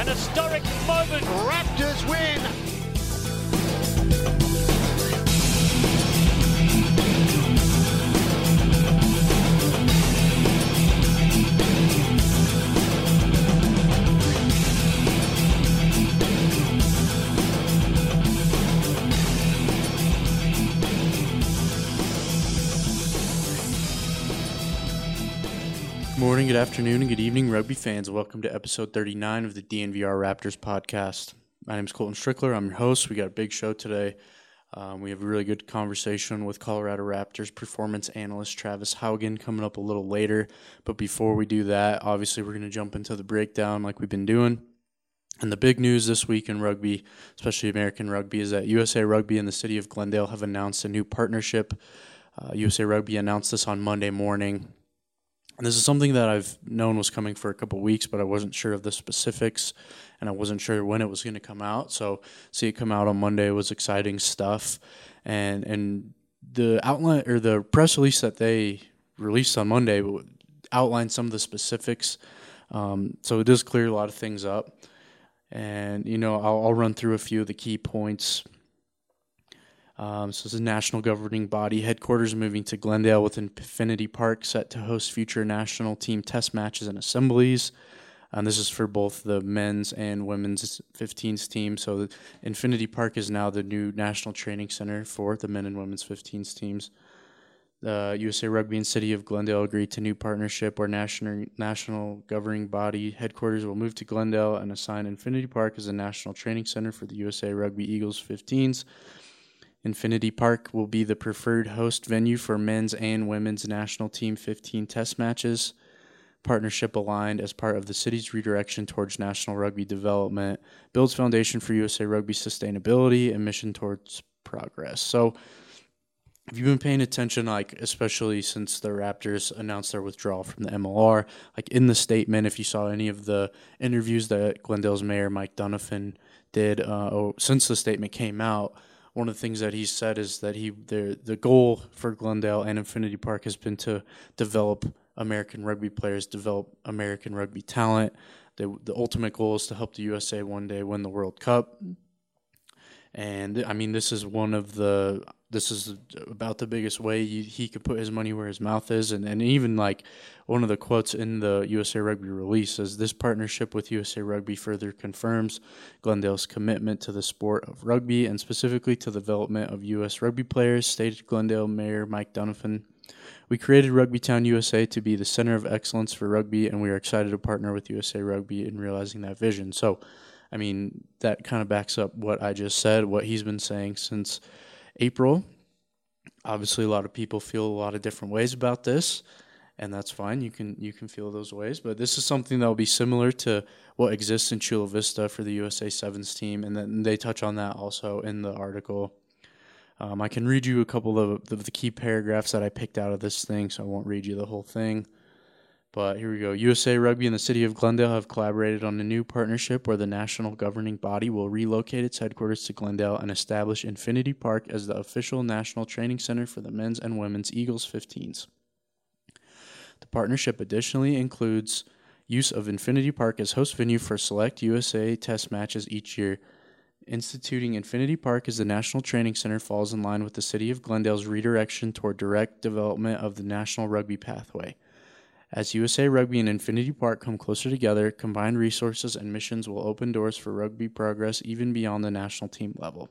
An historic moment. Raptors win. Good morning, good afternoon, and good evening, rugby fans. Welcome to episode 39 of the DNVR Raptors podcast. My name is Colton Strickler. I'm your host. We got a big show today. We have a really good conversation with Colorado Raptors performance analyst Travis Haugen coming up a little later. But before we do that, obviously we're going to jump into the breakdown like we've been doing. And the big news this week in rugby, especially American rugby, is that USA Rugby and the city of Glendale have announced a new partnership. USA Rugby announced this on Monday morning. And this is something that I've known was coming for a couple of weeks, but I wasn't sure of the specifics, and I wasn't sure when it was going to come out. So see it come out on Monday was exciting stuff. And the outline or the press release that they released on Monday outlined some of the specifics. So it does clear a lot of things up. And, you know, I'll run through a few of the key points. So this is a national governing body. Headquarters moving to Glendale with Infinity Park set to host future national team test matches and assemblies. And this is for both the men's and women's 15s team. So the Infinity Park is now the new national training center for the men and women's 15s teams. The USA Rugby and City of Glendale agreed to new partnership where national governing body headquarters will move to Glendale and assign Infinity Park as a national training center for the USA Rugby Eagles 15s. Infinity Park will be the preferred host venue for men's and women's national team 15 test matches. Partnership aligned as part of the city's redirection towards national rugby development, builds foundation for USA Rugby sustainability and mission towards progress. So if you've been paying attention, like especially since the Raptors announced their withdrawal from the MLR, like in the statement, if you saw any of the interviews that Glendale's mayor Mike Donovan did since the statement came out, one of the things that he said is that the goal for Glendale and Infinity Park has been to develop American rugby players, develop American rugby talent. The ultimate goal is to help the USA one day win the World Cup. And I mean, this is about the biggest way he could put his money where his mouth is. And even like one of the quotes in the USA Rugby release says, this partnership with USA Rugby further confirms Glendale's commitment to the sport of rugby and specifically to the development of U.S. rugby players, stated Glendale Mayor Mike Donovan. We created Rugbytown USA to be the center of excellence for rugby, and we are excited to partner with USA Rugby in realizing that vision. So, I mean, that kind of backs up what I just said, what he's been saying since April. Obviously, a lot of people feel a lot of different ways about this, and that's fine. You can feel those ways, but this is something that will be similar to what exists in Chula Vista for the USA Sevens team, and then they touch on that also in the article. I can read you a couple of the key paragraphs that I picked out of this thing, so I won't read you the whole thing. But here we go. USA Rugby and the City of Glendale have collaborated on a new partnership where the national governing body will relocate its headquarters to Glendale and establish Infinity Park as the official national training center for the men's and women's Eagles 15s. The partnership additionally includes use of Infinity Park as host venue for select USA test matches each year. Instituting Infinity Park as the national training center falls in line with the City of Glendale's redirection toward direct development of the national rugby pathway. As USA Rugby and Infinity Park come closer together, combined resources and missions will open doors for rugby progress even beyond the national team level.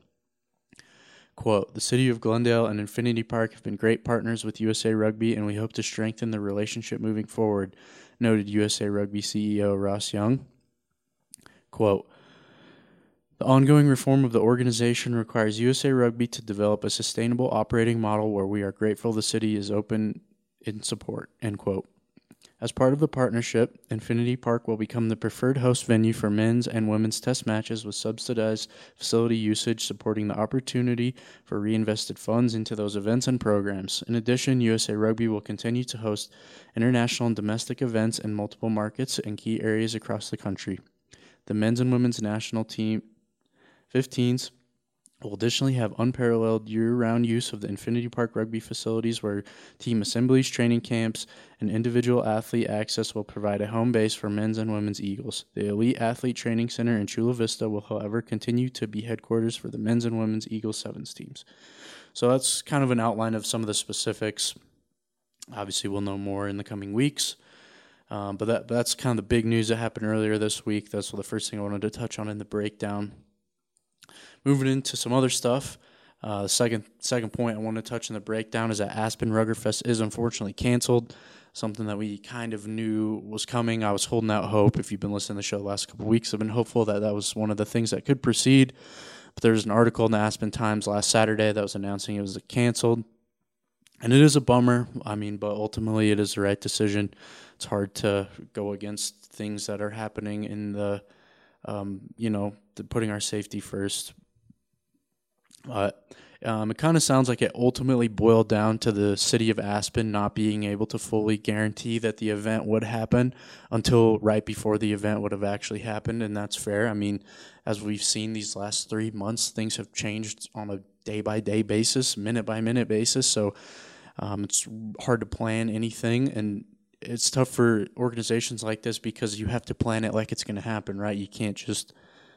Quote, the City of Glendale and Infinity Park have been great partners with USA Rugby, and we hope to strengthen the relationship moving forward, noted USA Rugby CEO Ross Young. Quote, the ongoing reform of the organization requires USA Rugby to develop a sustainable operating model where we are grateful the city is open in support, end quote. As part of the partnership, Infinity Park will become the preferred host venue for men's and women's test matches with subsidized facility usage, supporting the opportunity for reinvested funds into those events and programs. In addition, USA Rugby will continue to host international and domestic events in multiple markets and key areas across the country. The men's and women's national team 15s We'll additionally have unparalleled year-round use of the Infinity Park rugby facilities where team assemblies, training camps, and individual athlete access will provide a home base for men's and women's Eagles. The Elite Athlete Training Center in Chula Vista will, however, continue to be headquarters for the men's and women's Eagles Sevens teams. So that's kind of an outline of some of the specifics. Obviously, we'll know more in the coming weeks. But that's kind of the big news that happened earlier this week. That's the first thing I wanted to touch on in the breakdown. Moving into some other stuff, the second point I want to touch in the breakdown is that Aspen Ruggerfest is unfortunately canceled, something that we kind of knew was coming. I was holding out hope. If you've been listening to the show the last couple of weeks, I've been hopeful that that was one of the things that could proceed. But there was an article in the Aspen Times last Saturday that was announcing it was canceled. And it is a bummer, but ultimately it is the right decision. It's hard to go against things that are happening in the putting our safety first. It kind of sounds like it ultimately boiled down to the city of Aspen not being able to fully guarantee that the event would happen until right before the event would have actually happened, and that's fair. As we've seen these last 3 months, things have changed on a day-by-day basis, minute-by-minute basis, so it's hard to plan anything, and it's tough for organizations like this because you have to plan it like it's going to happen, right? You can't just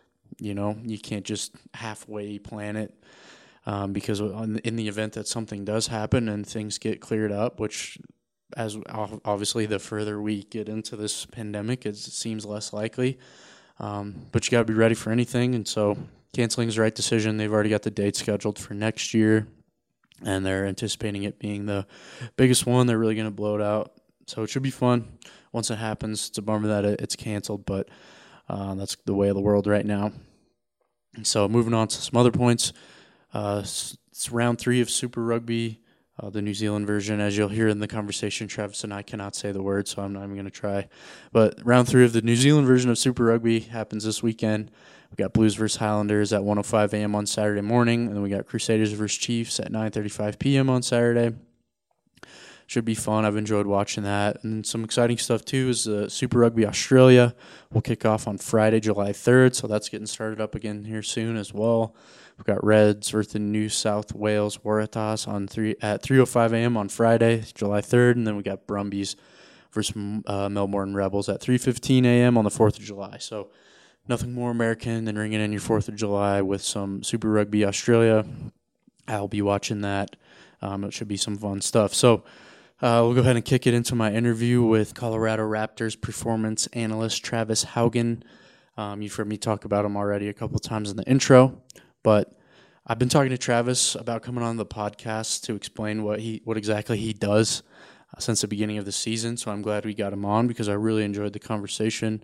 halfway plan it because in the event that something does happen and things get cleared up, which as obviously the further we get into this pandemic, it seems less likely. But you got to be ready for anything, and so canceling is the right decision. They've already got the date scheduled for next year, and they're anticipating it being the biggest one. They're really going to blow it out, so it should be fun once it happens. It's a bummer that it's canceled, but that's the way of the world right now. So moving on to some other points. It's round 3 of Super Rugby, the New Zealand version. As you'll hear in the conversation, Travis and I cannot say the word, so I'm not even going to try. But round 3 of the New Zealand version of Super Rugby happens this weekend. We got Blues versus Highlanders at 1:05 a.m. on Saturday morning, and then we got Crusaders versus Chiefs at 9:35 p.m. on Saturday. Should be fun. I've enjoyed watching that. And some exciting stuff, too, is Super Rugby Australia will kick off on Friday, July 3rd, so that's getting started up again here soon as well. We've got Reds versus New South Wales Waratahs at 3:05 a.m. on Friday, July 3rd, and then we got Brumbies versus Melbourne Rebels at 3:15 a.m. on the 4th of July. So nothing more American than ringing in your 4th of July with some Super Rugby Australia. I'll be watching that. It should be some fun stuff. So we'll go ahead and kick it into my interview with Colorado Raptors performance analyst Travis Haugen. You've heard me talk about him already a couple times in the intro, but I've been talking to Travis about coming on the podcast to explain what exactly he does since the beginning of the season. So I'm glad we got him on because I really enjoyed the conversation.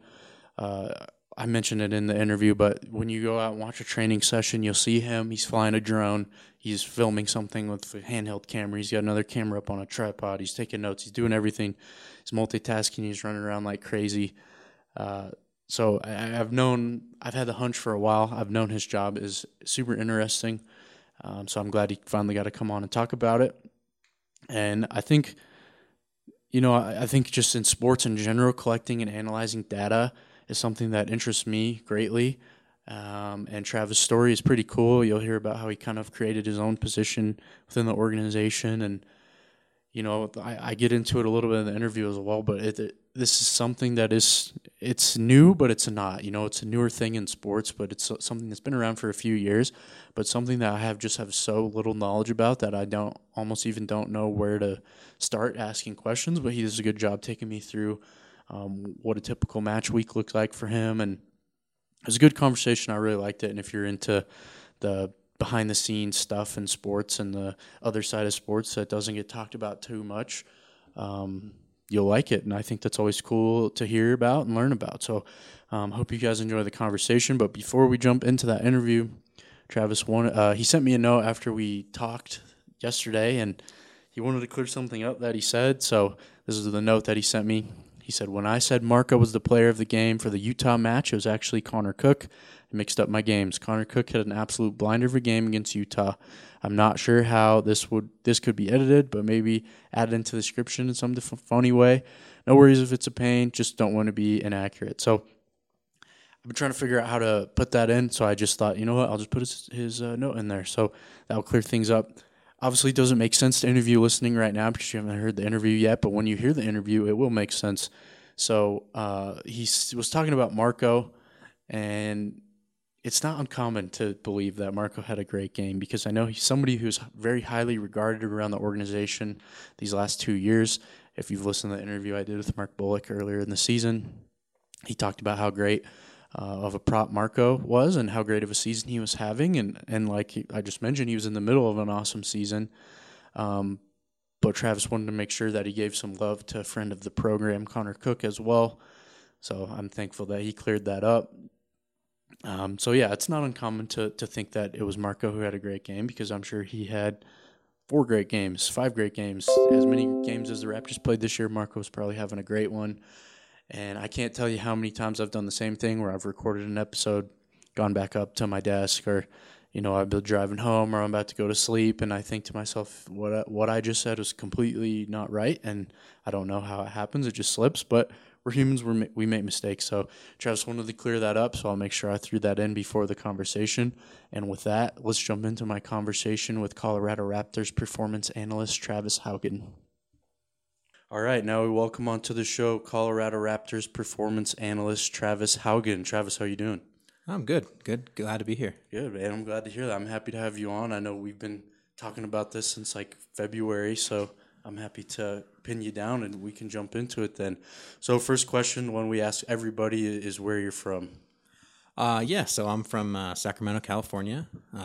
I mentioned it in the interview, but when you go out and watch a training session, you'll see him. He's flying a drone. He's filming something with a handheld camera. He's got another camera up on a tripod. He's taking notes. He's doing everything. He's multitasking. He's running around like crazy. So I've had the hunch for a while. I've known his job is super interesting. So I'm glad he finally got to come on and talk about it. And I think, I think just in sports in general, collecting and analyzing data is something that interests me greatly. And Travis' story is pretty cool. You'll hear about how he kind of created his own position within the organization. And, I get into it a little bit in the interview as well, but this is something that it's new, but it's not. It's a newer thing in sports, but it's something that's been around for a few years, but something that I have so little knowledge about that I almost even don't know where to start asking questions, but he does a good job taking me through what a typical match week looks like for him. And it was a good conversation. I really liked it. And if you're into the behind-the-scenes stuff in sports and the other side of sports that doesn't get talked about too much, you'll like it. And I think that's always cool to hear about and learn about. So hope you guys enjoy the conversation. But before we jump into that interview, Travis, he sent me a note after we talked yesterday, and he wanted to clear something up that he said. So this is the note that he sent me. He said, when I said Marco was the player of the game for the Utah match, it was actually Connor Cook. I mixed up my games. Connor Cook had an absolute blinder of a game against Utah. I'm not sure how this could be edited, but maybe added into the description in some funny way. No worries if it's a pain, just don't want to be inaccurate. So I've been trying to figure out how to put that in. So I just thought, you know what, I'll just put his note in there. So that'll clear things up. Obviously, it doesn't make sense to interview listening right now because you haven't heard the interview yet. But when you hear the interview, it will make sense. So he was talking about Marco, and it's not uncommon to believe that Marco had a great game because I know he's somebody who's very highly regarded around the organization these last 2 years. If you've listened to the interview I did with Mark Bullock earlier in the season, he talked about how great of a prop Marco was and how great of a season he was having. And like I just mentioned, he was in the middle of an awesome season. But Travis wanted to make sure that he gave some love to a friend of the program, Connor Cook, as well. So I'm thankful that he cleared that up. So yeah, it's not uncommon to think that it was Marco who had a great game because I'm sure he had 4 great games, 5 great games, as many games as the Raptors played this year. Marco was probably having a great one. And I can't tell you how many times I've done the same thing where I've recorded an episode, gone back up to my desk, or, I've been driving home or I'm about to go to sleep, and I think to myself, what I just said was completely not right, and I don't know how it happens. It just slips, but we're humans. We make mistakes. So Travis wanted to clear that up, so I'll make sure I threw that in before the conversation. And with that, let's jump into my conversation with Colorado Raptors performance analyst Travis Haugen. All right, now we welcome onto the show Colorado Raptors performance analyst Travis Haugen. Travis, how you doing? I'm good. Glad to be here. Good, man. I'm glad to hear that. I'm happy to have you on. I know we've been talking about this since like February, so I'm happy to pin you down and we can jump into it then. So first question, one we ask everybody, is where you're from. So I'm from Sacramento, California.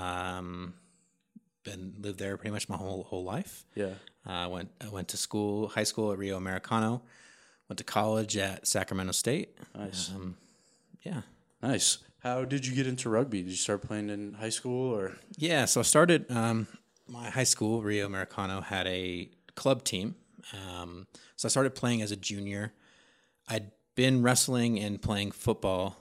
Lived there pretty much my whole life. Yeah. I went to high school at Rio Americano. Went to college at Sacramento State. Nice. Yeah. Nice. How did you get into rugby? Did you start playing in high school or? Yeah. So I started. My high school, Rio Americano, had a club team. So I started playing as a junior. I'd been wrestling and playing football.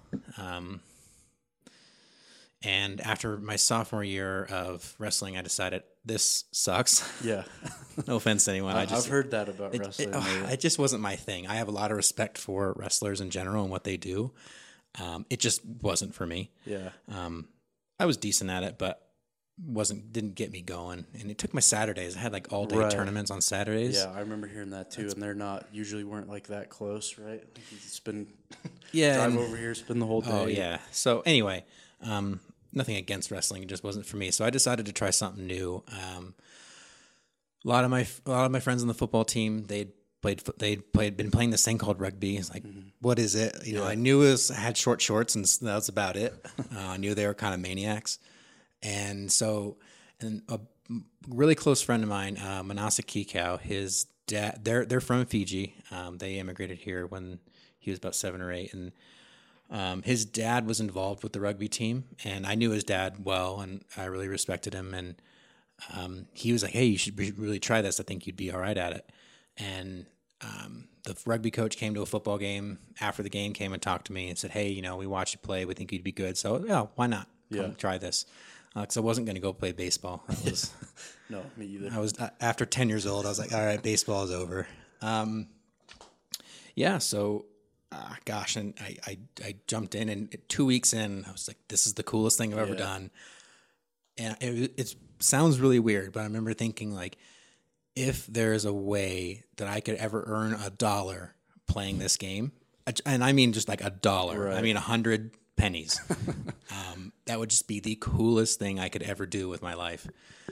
And after my sophomore year of wrestling, I decided this sucks. Yeah. No offense to anyone. I've heard that about wrestling. It just wasn't my thing. I have a lot of respect for wrestlers in general and what they do. It just wasn't for me. Yeah. I was decent at it, but didn't get me going. And it took my Saturdays. I had like all day tournaments on Saturdays. Yeah, I remember hearing that too. And they're weren't like that close, right? You spend drive over here, spend the whole day. Oh yeah. So anyway, nothing against wrestling. It just wasn't for me. So I decided to try something new. A lot of my friends on the football team, they'd been playing this thing called rugby. It's like, what is it? I knew it had short shorts, and that was about it. I knew they were kind of maniacs. And so, a really close friend of mine, Manasa Kikau, his dad, they're from Fiji. They immigrated here when he was about 7 or 8, and his dad was involved with the rugby team, and I knew his dad well, and I really respected him. And he was like, "Hey, you should really try this. I think you'd be all right at it." And the rugby coach came to a football game after the game, came and talked to me and said, "Hey, we watched you play. We think you'd be good. So, yeah, why not? Come try this." Because I wasn't going to go play baseball. No, me either. I was after 10 years old. I was like, all right, baseball is over. So, gosh, and I jumped in, and 2 weeks in, I was like, this is the coolest thing I've ever done. And it sounds really weird, but I remember thinking, like, if there's a way that I could ever earn $1 playing this game, and I mean just like $1, right. I mean 100 pennies, that would just be the coolest thing I could ever do with my life.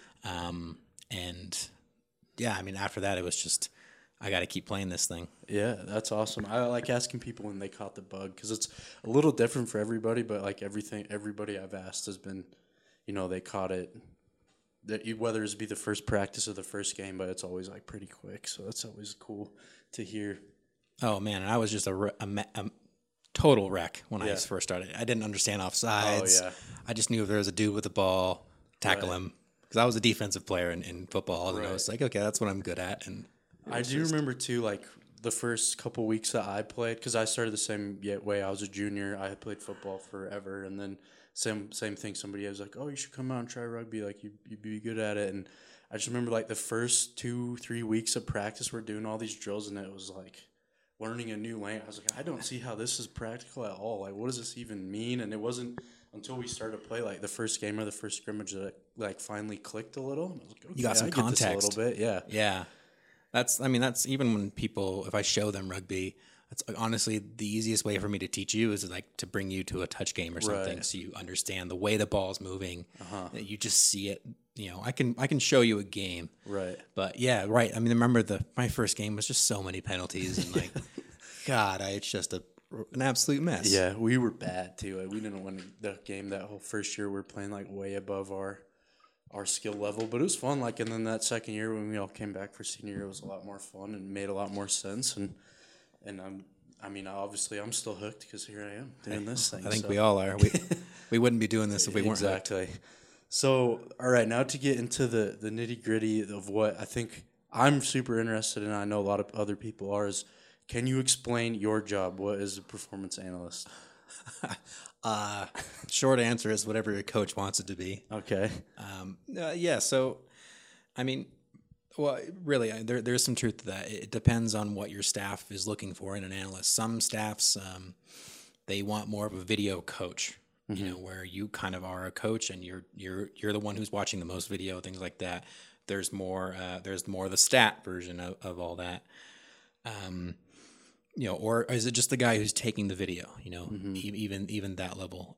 After that, it was just, I got to keep playing this thing. Yeah, that's awesome. I like asking people when they caught the bug because it's a little different for everybody, but like everybody I've asked has been, they caught it, whether it's be the first practice or the first game, but it's always like pretty quick. So that's always cool to hear. Oh man, and I was just a total wreck when I first started. I didn't understand offsides. Oh, yeah. I just knew if there was a dude with the ball, tackle him. Because I was a defensive player in football, and I was like, okay, that's what I'm good at. And I do remember too, like the first couple weeks that I played, because I started the same way. I was a junior. I had played football forever, and then same thing. Somebody was like, "Oh, you should come out and try rugby. Like you'd be good at it." And I just remember like the first 2-3 weeks of practice, we're doing all these drills, and it was like learning a new language. I was like, I don't see how this is practical at all. Like, what does this even mean? And it wasn't until we started to play like the first game or the first scrimmage that like finally clicked a little. And I was like, okay, You got some I get this context. a little bit, yeah. Yeah. That's even when people, if I show them rugby, that's honestly the easiest way for me to teach you is like to bring you to a touch game or something, Right. so you understand the way the ball's moving. That you just see it. I can show you a game, Right. but yeah, right. I mean, remember my first game was just so many penalties and like, God, it's just an absolute mess. Yeah, we were bad too. Like, we didn't win the game that whole first year. We were playing like way above our skill level, but it was fun. Like, and then that second year when we all came back for senior year, it was a lot more fun and made a lot more sense. And obviously I'm still hooked because here I am doing this thing. I think so. we all are. We wouldn't be doing this if we weren't. Exactly. So, all right, now to get into the nitty gritty of what I think I'm super interested in, I know a lot of other people are, is can you explain your job? What is a performance analyst? Short answer is whatever your coach wants it to be. Okay. Yeah. So, I mean, well, really, there's some truth to that. It depends on what your staff is looking for in an analyst. Some staffs, they want more of a video coach, where you kind of are a coach and you're the one who's watching the most video, things like that. There's more the stat version of all that. Or is it just the guy who's taking the video? Even that level.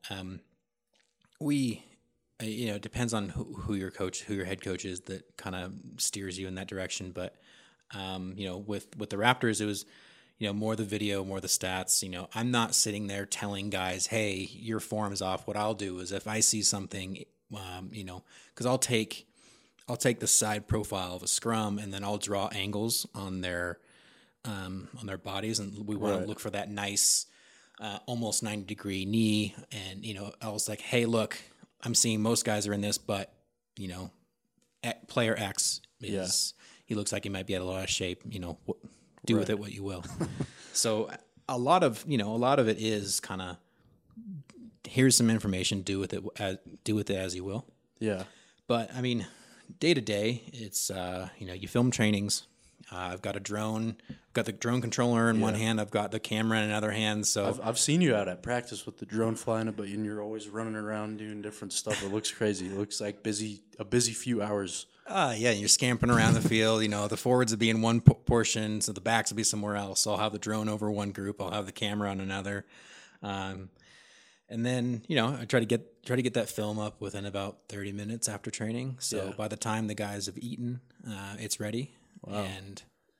It depends on who your head coach is that kind of steers you in that direction. But with the Raptors, it was more the video, more the stats. I'm not sitting there telling guys, hey, your form is off. What I'll do is if I see something, because I'll take the side profile of a scrum and then I'll draw angles on their bodies, and we want to look for that nice, almost 90-degree knee. And I was like, hey, look, I'm seeing most guys are in this, but player X he looks like he might be out of a lot of shape. Do with it what you will. So a lot of it is kind of, here's some information, do with it as you will. Yeah. But I mean, day to day, it's you film trainings. I've got a drone. I've got the drone controller in one hand. I've got the camera in another hand. So I've seen you out at practice with the drone flying it, but you're always running around doing different stuff. It looks crazy. It looks like a busy few hours. Yeah, you're scampering around the field. The forwards will be in one portion, so the backs will be somewhere else. So I'll have the drone over one group. I'll have the camera on another. And then, I try to get that film up within about 30 minutes after training. So by the time the guys have eaten, it's ready. Wow. And,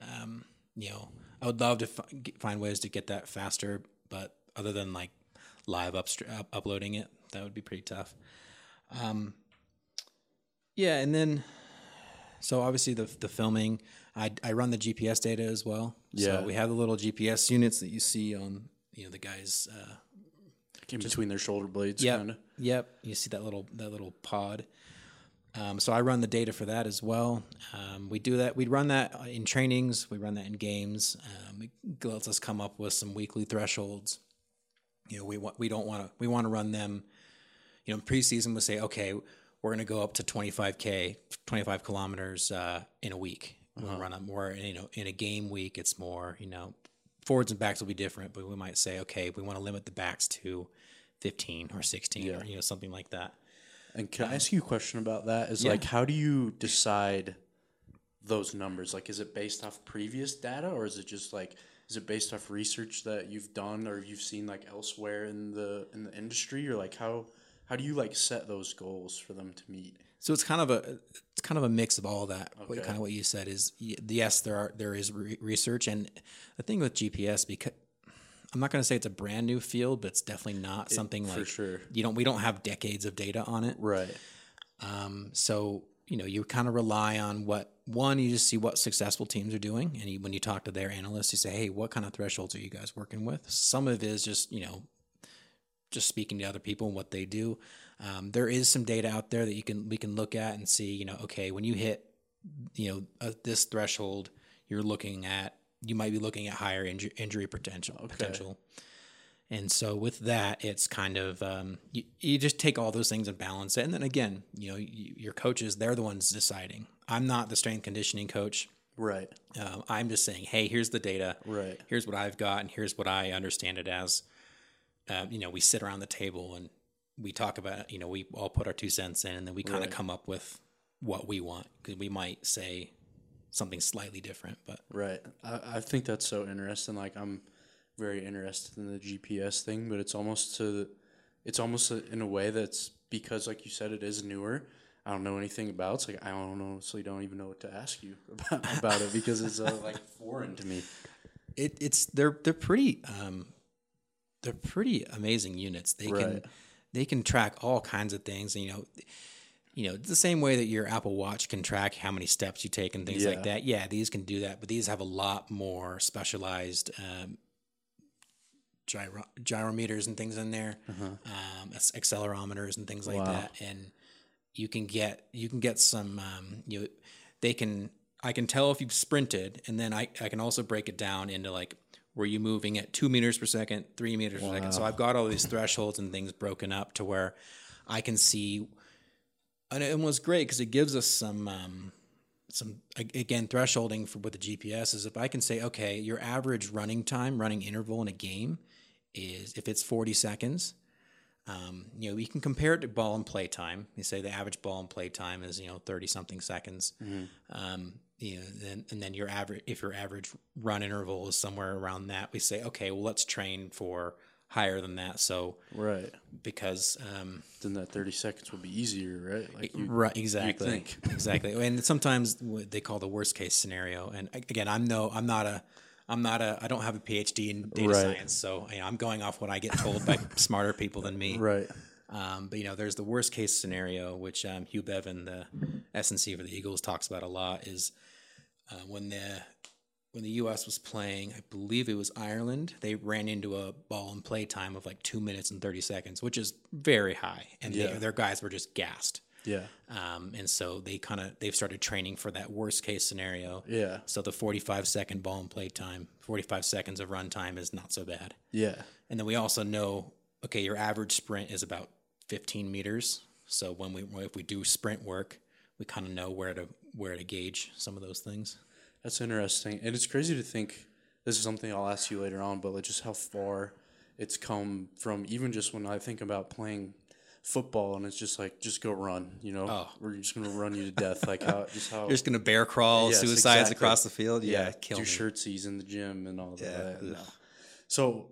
I would love to find ways to get that faster, but other than like live uploading it, that would be pretty tough. And then, so obviously the filming, I run the GPS data as well. Yeah. So we have the little GPS units that you see on, the guys, in between their shoulder blades, kind of. Yep. You see that little pod. So I run the data for that as well. We do that. We run that in trainings. We run that in games. It lets us come up with some weekly thresholds. We want to run them. In preseason, we'll say, okay, we're going to go up to 25 kilometers in a week. We'll run them more. In a game week, it's more. Forwards and backs will be different, but we might say, okay, we want to limit the backs to 15 or 16 or something like that. And can I ask you a question about that? Like, how do you decide those numbers? Like, is it based off previous data, or is it just like, is it based off research that you've done or you've seen like elsewhere in the industry, or like how do you like set those goals for them to meet? So it's kind of a mix of all that. Okay. Kind of what you said is, yes, there is research, and the thing with GPS, because I'm not going to say it's a brand new field, but it's definitely not something like, for sure. We don't have decades of data on it. Right. So, you kind of rely on you just see what successful teams are doing. And when you talk to their analysts, you say, hey, what kind of thresholds are you guys working with? Some of it is just, just speaking to other people and what they do. There is some data out there that we can look at and see, okay, when you hit, this threshold, you might be looking at higher injury potential. And so with that, it's kind of, you just take all those things and balance it. And then again, your coaches, they're the ones deciding. I'm not the strength conditioning coach. Right. I'm just saying, hey, here's the data. Right. Here's what I've got, and here's what I understand it as. We sit around the table and we talk about, we all put our 2 cents in, and then we kind of come up with what we want, because we might say something slightly different. But Right. I think that's so interesting. Like, I'm very interested in the GPS thing, but it's almost in a way that's because, like you said, it is newer. I don't know anything about it. It's like I honestly don't even know what to ask you about it because it's like foreign to me. they're pretty amazing units. They can track all kinds of things. And, it's the same way that your Apple Watch can track how many steps you take and things like that. Yeah, these can do that, but these have a lot more specialized gyrometers and things in there, accelerometers and things like that. And you can get some. I can tell if you've sprinted, and then I can also break it down into like, were you moving at 2 meters per second, 3 meters per second? So I've got all these thresholds and things broken up to where I can see. And it was great because it gives us some again, thresholding with the GPS is if I can say, okay, your average running interval in a game is, if it's 40 seconds, we can compare it to ball and play time. You say the average ball and play time is, 30 something seconds. And then if your average run interval is somewhere around that, we say, okay, well, let's train for higher than that. So, right. Because, then that 30 seconds will be easier, right? Like right. Exactly. Exactly. And sometimes they call the worst case scenario. And again, I don't have a PhD in data science. So I'm going off what I get told by smarter people than me. Right. But there's the worst case scenario, which Hugh Bevan, the SNC for the Eagles, talks about a lot, is when the U.S. was playing, I believe it was Ireland, they ran into a ball and play time of like 2 minutes and 30 seconds, which is very high, and their guys were just gassed. Yeah. And so they've started training for that worst case scenario. Yeah. So the 45-second ball and play time, 45 seconds of run time is not so bad. Yeah. And then we also know, okay, your average sprint is about 15 meters. So if we do sprint work, we kind of know where to gauge some of those things. That's interesting. And it's crazy to think, this is something I'll ask you later on, but like just how far it's come from, even just when I think about playing football and it's just like, just go run, we're just going to run you to death. Like how you're just going to bear crawl suicides across the field. Yeah. Kill do shirtsies in the gym and all that. No. So,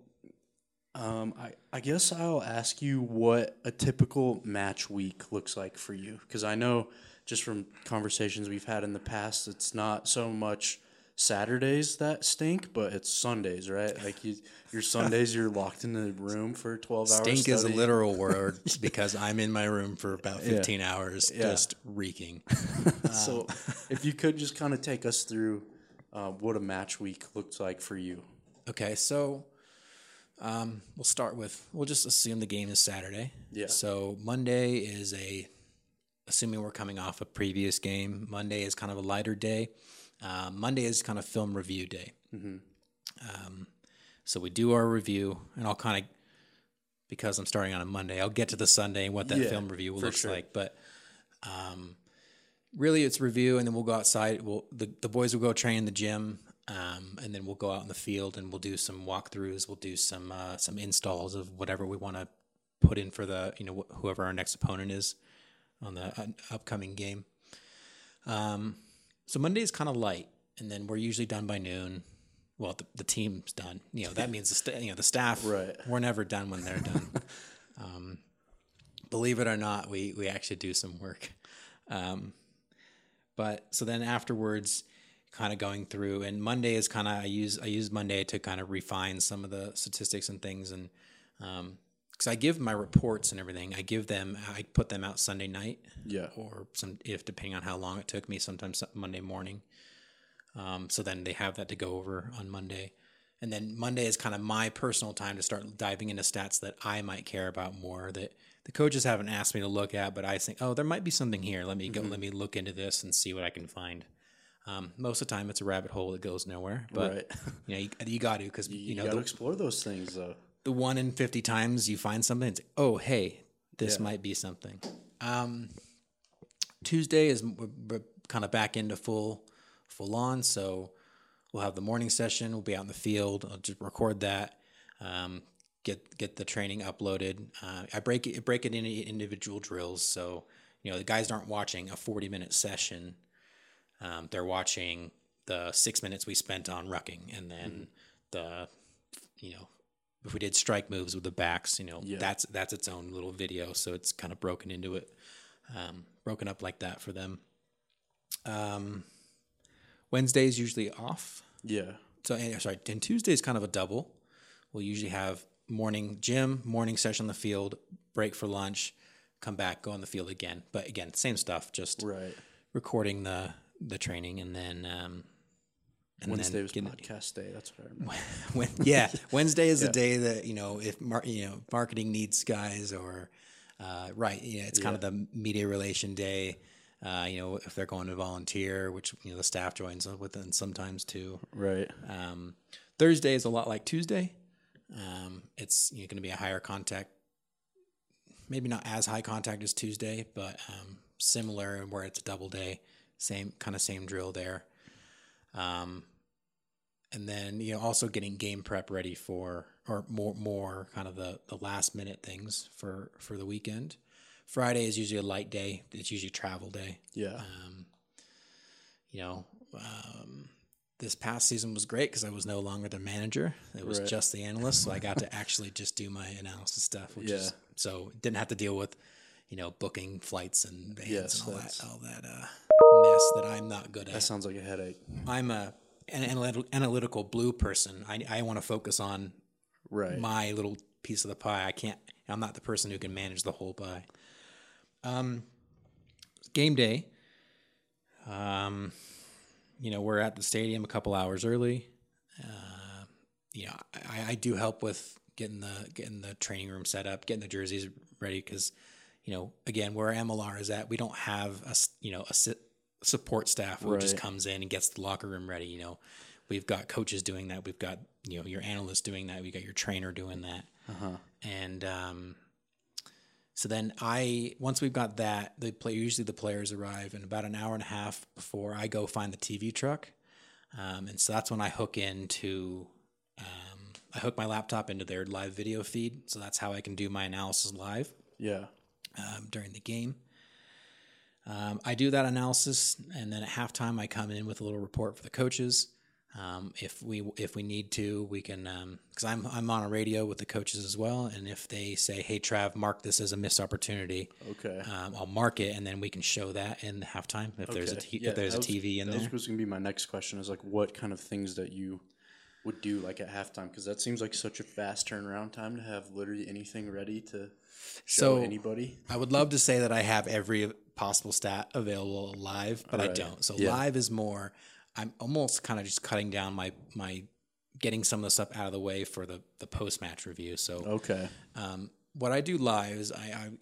I guess I'll ask you what a typical match week looks like for you. Cause I know just from conversations we've had in the past, it's not so much Saturdays that stink, but it's Sundays, right? Like your Sundays, you're locked in the room for 12 hours. Stink is a literal word because I'm in my room for about 15 hours just reeking. So if you could just kind of take us through what a match week looks like for you. Okay, so we'll just assume the game is Saturday. Yeah. So Monday is assuming we're coming off a previous game, Monday is kind of a lighter day. Monday is kind of film review day. Mm-hmm. So we do our review, and I'll kind of, because I'm starting on a Monday, I'll get to the Sunday and what that film review looks like. But really, it's review, and then we'll go outside. The boys will go train in the gym, and then we'll go out in the field and we'll do some walkthroughs. We'll do some installs of whatever we want to put in for the whoever our next opponent is on the upcoming game. So Monday is kind of light, and then we're usually done by noon. Well, the team's done. That means the staff. Right. We're never done when they're done. Believe it or not, we actually do some work. But so then afterwards, kind of going through, and Monday is kind of I use Monday to kind of refine some of the statistics and things, and because I give my reports and everything, I put them out Sunday night. Yeah. Or depending on how long it took me, sometimes Monday morning. So then they have that to go over on Monday. And then Monday is kind of my personal time to start diving into stats that I might care about more, that the coaches haven't asked me to look at, but I think, there might be something here. Let me go, let me look into this and see what I can find. Most of the time it's a rabbit hole that goes nowhere, but you got to, because you got to explore those things though. The 1 in 50 times you find something, it's, oh, hey, this might be something. Tuesday is we're kind of back into full full on. So we'll have the morning session. We'll be out in the field. I'll just record that. Get the training uploaded. I break it into individual drills. So, the guys aren't watching a 40-minute session. They're watching the 6 minutes we spent on rucking, and then if we did strike moves with the backs, that's its own little video. So it's kind of broken into it, broken up like that for them. Wednesday is usually off. Yeah. So, and Tuesday is kind of a double. We'll usually have morning gym, morning session on the field, break for lunch, come back, go on the field again. But again, same stuff, just recording the training, and then Wednesday was podcast day. That's what I remember. Wednesday is the day that if marketing needs guys, or it's kind of the media relation day. If they're going to volunteer, which the staff joins with, and sometimes too. Right. Thursday is a lot like Tuesday. It's going to be a higher contact, maybe not as high contact as Tuesday, but similar, where it's a double day, same drill there. And then also getting game prep ready for, or more kind of the last minute things for the weekend. Friday is usually a light day. It's usually travel day. Yeah. This past season was great because I was no longer the manager. It was just the analyst. So I got to actually just do my analysis stuff, so didn't have to deal with, booking flights and bands and all that mess that I'm not good at. That sounds like a headache. I'm an analytical blue person. I want to focus on my little piece of the pie. I'm not the person who can manage the whole pie. Game day. We're at the stadium a couple hours early. I do help with getting the training room set up, getting the jerseys ready, because, again, where MLR is at, we don't have a support staff who just comes in and gets the locker room ready. We've got coaches doing that. We've got, your analysts doing that. We got your trainer doing that. And so then once we've got that, usually the players arrive, and about an hour and a half before, I go find the TV truck. And so that's when I hook my laptop into their live video feed. So that's how I can do my analysis live. Yeah. During the game. I do that analysis, and then at halftime I come in with a little report for the coaches. If we need to, we can, because I'm on a radio with the coaches as well, and if they say, "Hey, Trav, mark this as a missed opportunity," I'll mark it, and then we can show that in halftime if there's a TV in there. That was going to be my next question: is like what kind of things that you would do like at halftime, because that seems like such a fast turnaround time to have literally anything ready to show anybody. I would love to say that I have every possible stat available live, but I don't. So live is more. I'm almost kind of just cutting down my getting some of the stuff out of the way for the post match review. So what I do live is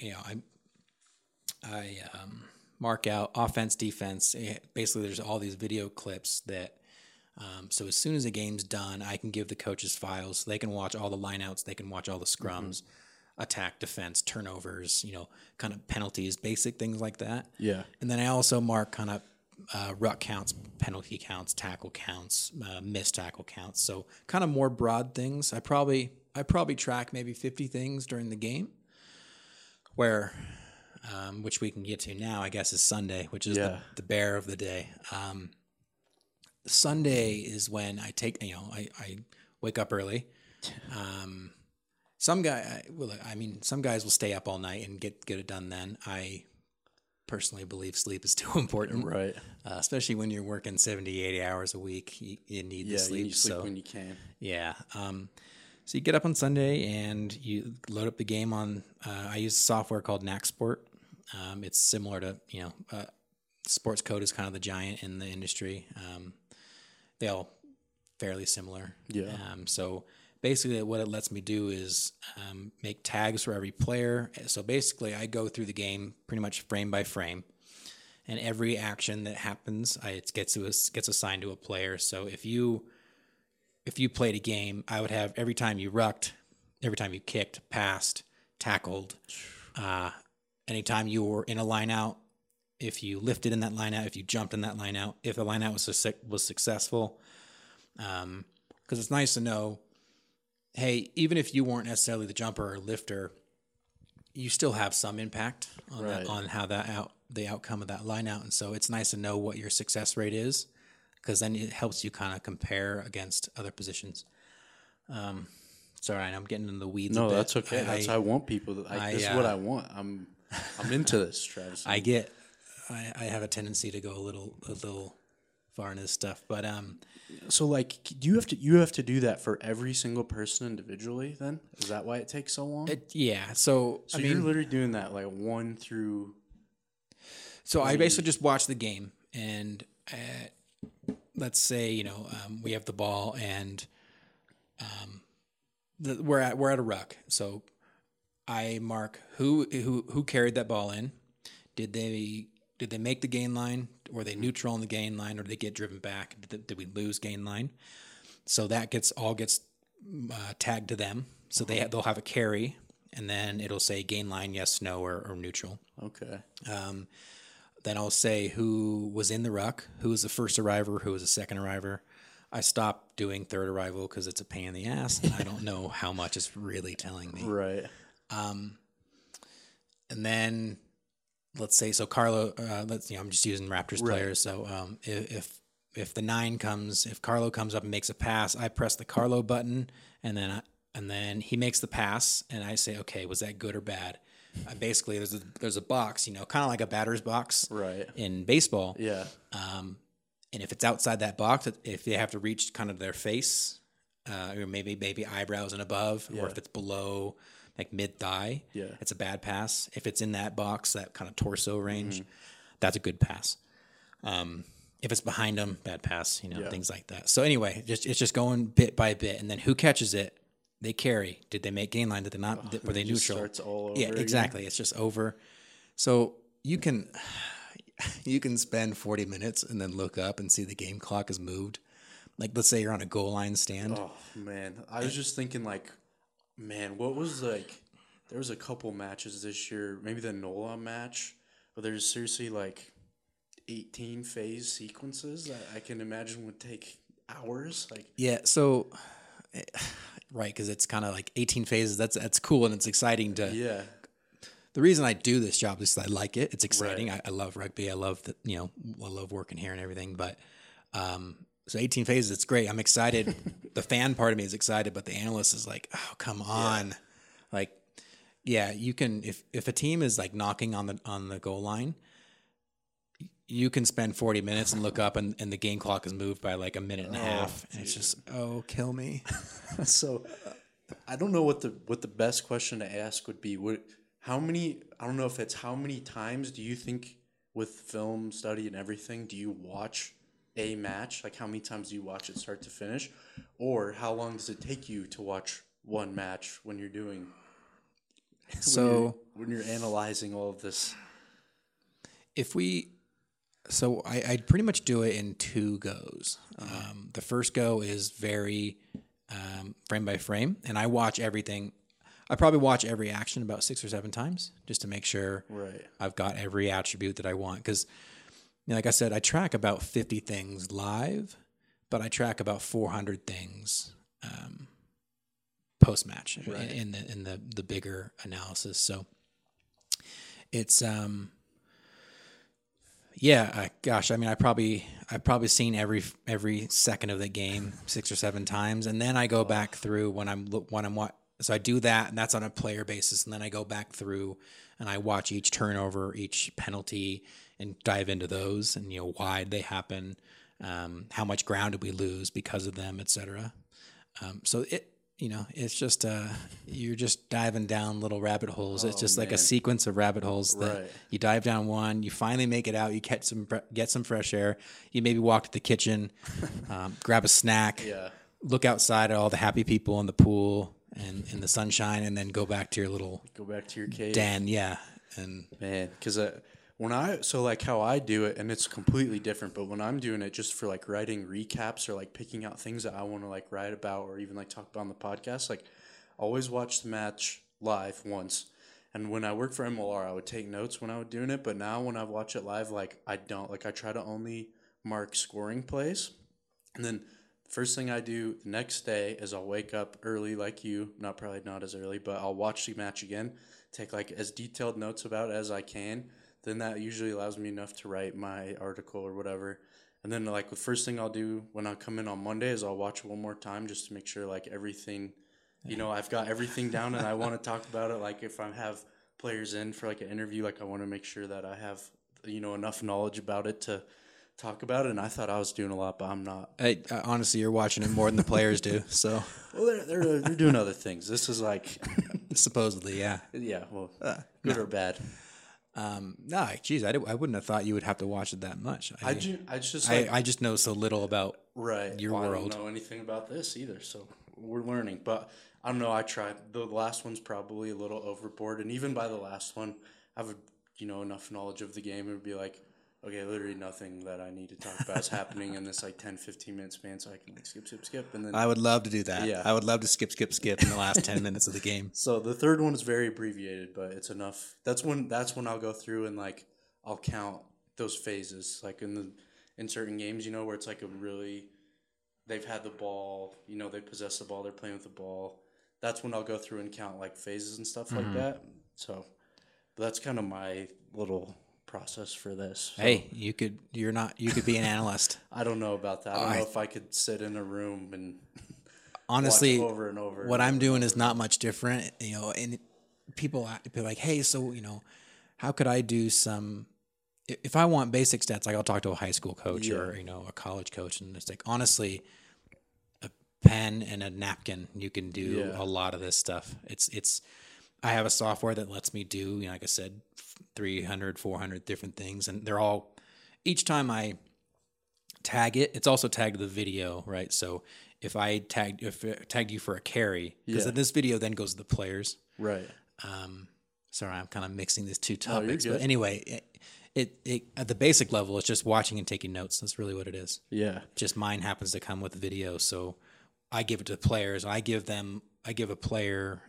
I mark out offense, defense. Basically, there's all these video clips that. So as soon as the game's done, I can give the coaches files. So they can watch all the lineouts. They can watch all the scrums, attack, defense, turnovers. Kind of penalties, basic things like that. Yeah. And then I also mark kind of ruck counts, penalty counts, tackle counts, missed tackle counts. So kind of more broad things. I probably track maybe 50 things during the game, where which we can get to now, I guess, is Sunday, which is the bear of the day. Sunday is when I take, I wake up early. Some guys will stay up all night and get it done then. I personally believe sleep is too important. Right. Especially when you're working 70, 80 hours a week, you need the sleep. You need sleep when you can. Yeah. So you get up on Sunday and you load up the game on, I use software called NACSport. It's similar to, Sports Code is kind of the giant in the industry. They all fairly similar. Yeah. So basically what it lets me do is make tags for every player. So basically I go through the game pretty much frame by frame, and every action that happens, it gets assigned to a player. So if you played a game, I would have every time you rucked, every time you kicked, passed, tackled, anytime you were in a line out, if you lifted in that line out, if you jumped in that line out, if the line out was successful. Because it's nice to know, hey, even if you weren't necessarily the jumper or lifter, you still have some impact on Right. on how the outcome of that line out. And so it's nice to know what your success rate is, because then it helps you kind of compare against other positions. Sorry, I'm getting in the weeds. No, a bit. that's okay. That's how I want people. This is what I want. I'm into this, Travis. I have a tendency to go a little far into this stuff, but So, like, do you have to do that for every single person individually? Then is that why it takes so long? yeah. So So you're literally doing that like 1 through. So I basically just watch the game, and let's say we have the ball, and we're at a ruck. So I mark who carried that ball in. Did they make the gain line? Were they neutral on the gain line, or did they get driven back? Did we lose gain line? So that gets tagged to them. So they'll have a carry, and then it'll say gain line, yes, no, or neutral. Okay. Then I'll say who was in the ruck, who was the first arriver, who was the second arriver. I stopped doing third arrival because it's a pain in the ass, and I don't know how much it's really telling me. Right. And then let's say Carlo. I'm just using Raptors players. So if the 9 comes, if Carlo comes up and makes a pass, I press the Carlo button, and then he makes the pass, and I say, okay, was that good or bad? Basically, there's a box, kind of like a batter's box, Right. in baseball. Yeah. And if it's outside that box, if they have to reach kind of their face, or maybe eyebrows and above, or if it's below like mid thigh, it's a bad pass. If it's in that box, that kind of torso range, that's a good pass. If it's behind them, bad pass. Things like that. So anyway, it's just going bit by bit, and then who catches it? They carry. Did they make gain line? Did they not? Were they neutral? Starts all over. Yeah, exactly. Again. It's just over. So you can spend 40 minutes and then look up and see the game clock has moved. Like, let's say you're on a goal line stand. Oh man, I was just thinking like, man, what was like? There was a couple matches this year, maybe the NOLA match, but there's seriously like 18 phase sequences that I can imagine would take hours. Like, yeah, so right, because it's kind of like 18 phases. That's cool and it's exciting to. Yeah. The reason I do this job is I like it. It's exciting. Right. I love rugby. I love I love working here and everything. But so 18 phases, it's great. I'm excited. The fan part of me is excited, but the analyst is like, oh, come on. Yeah. Like, yeah, you can if a team is like knocking on the goal line, you can spend 40 minutes and look up and the game clock is moved by like a minute and a half. And it's just, kill me. So I don't know what the best question to ask would be. How many times do you think with film study and everything do you watch a match? Like how many times do you watch it start to finish? Or how long does it take you to watch one match when you're doing when you're analyzing all of this? I pretty much do it in 2 goes. The first go is very frame by frame, and I watch everything. I probably watch every action about 6 or 7 times just to make sure I've got every attribute that I want. Because, like I said, I track about 50 things live, but I track about 400 things post match in the bigger analysis. So it's gosh, I mean, I've probably seen every second of the game 6 or 7 times, and then I go back through when I'm so I do that, and that's on a player basis, and then I go back through and I watch each turnover, each penalty, and dive into those, and why they happen, how much ground did we lose because of them, etc. So it's just you're just diving down little rabbit holes. It's just like a sequence of rabbit holes that you dive down one, you finally make it out, you get some fresh air, you maybe walk to the kitchen, grab a snack, look outside at all the happy people in the pool and in the sunshine, and then go back to your cave. Den, and man, because how I do it, and it's completely different, but when I'm doing it just for like writing recaps or like picking out things that I want to like write about or even like talk about on the podcast, like always watch the match live once, And when I worked for MLR, I would take notes when I was doing it. But now when I watch it live, like I don't. Like I try to only mark scoring plays. And then first thing I do the next day is I'll wake up early like you. Probably not as early, but I'll watch the match again. Take like as detailed notes about it as I can. Then that usually allows me enough to write my article or whatever. And then like the first thing I'll do when I come in on Monday is I'll watch it one more time just to make sure like everything, I've got everything down and I want to talk about it. Like if I have players in for like an interview, like I want to make sure that I have, enough knowledge about it to talk about it. And I thought I was doing a lot, but I'm not. Honestly, you're watching it more than the players do. So, well, they're doing other things. This is like supposedly, yeah. Yeah. Well, good or bad. No, geez, I wouldn't have thought you would have to watch it that much. I just know so little about your world. I don't know anything about this either, so we're learning. But I don't know. I tried. The last one's probably a little overboard, and even by the last one, I have enough knowledge of the game. It would be like, okay, literally nothing that I need to talk about is happening in this like 10, 15-minute span, so I can like skip, and then I would love to do that. Yeah, I would love to skip in the last 10 minutes of the game. So the third one is very abbreviated, but it's enough. That's when I'll go through and like I'll count those phases, like in certain games, where it's like they've had the ball, they possess the ball, they're playing with the ball. That's when I'll go through and count like phases and stuff like that. So that's kind of my little process for this. So, hey, you could be an analyst. I don't know about that. I don't know if I could sit in a room and honestly watch over and over. What I'm doing is not much different, and people be like, hey, so how could I do some? If I want basic stats, like I'll talk to a high school coach or a college coach, and it's like honestly, a pen and a napkin, you can do a lot of this stuff. It's I have a software that lets me do, like I said, 300, 400 different things, and they're all, each time I tag it, it's also tagged the video, right? So if I tagged you for a carry, because this video then goes to the players, right? Sorry, I'm kind of mixing these two topics, but anyway, it at the basic level, it's just watching and taking notes. That's really what it is. Yeah. Just mine happens to come with video, so I give it to the players. I give a player,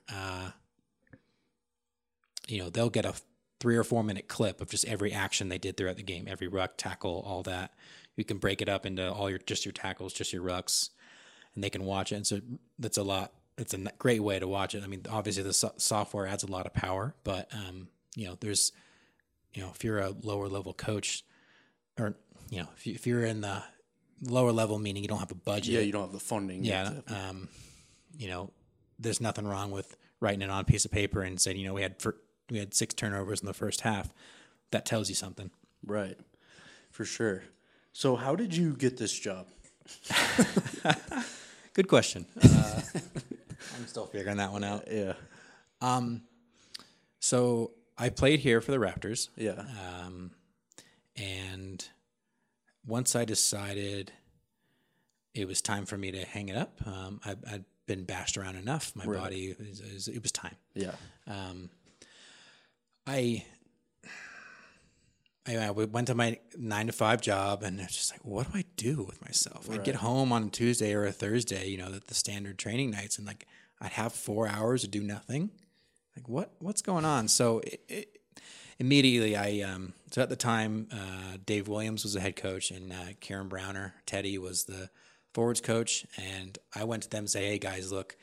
they'll get a 3 or 4 minute clip of just every action they did throughout the game, every ruck, tackle, all that. You can break it up into all your tackles, just your rucks, and they can watch it. And so that's a lot. It's a great way to watch it. I mean, obviously the software adds a lot of power, but there's, if you're a lower level coach, or if you're in the lower level, meaning you don't have a budget, you don't have the funding. Yeah, there's nothing wrong with writing it on a piece of paper and saying, we had 6 turnovers in the first half. That tells you something. Right. For sure. So how did you get this job? Good question. I'm still figuring that one out. Yeah. So I played here for the Raptors. Yeah. And once I decided it was time for me to hang it up, I'd been bashed around enough. My body, it was time. Yeah. I went to my 9-to-5 job, and it's just like, what do I do with myself? I'd get home on a Tuesday or a Thursday, the standard training nights, and like I'd have 4 hours to do nothing. Like what's going on? So immediately so at the time, Dave Williams was the head coach, and Karen Browner, Teddy, was the forwards coach, and I went to them and say, hey guys, look,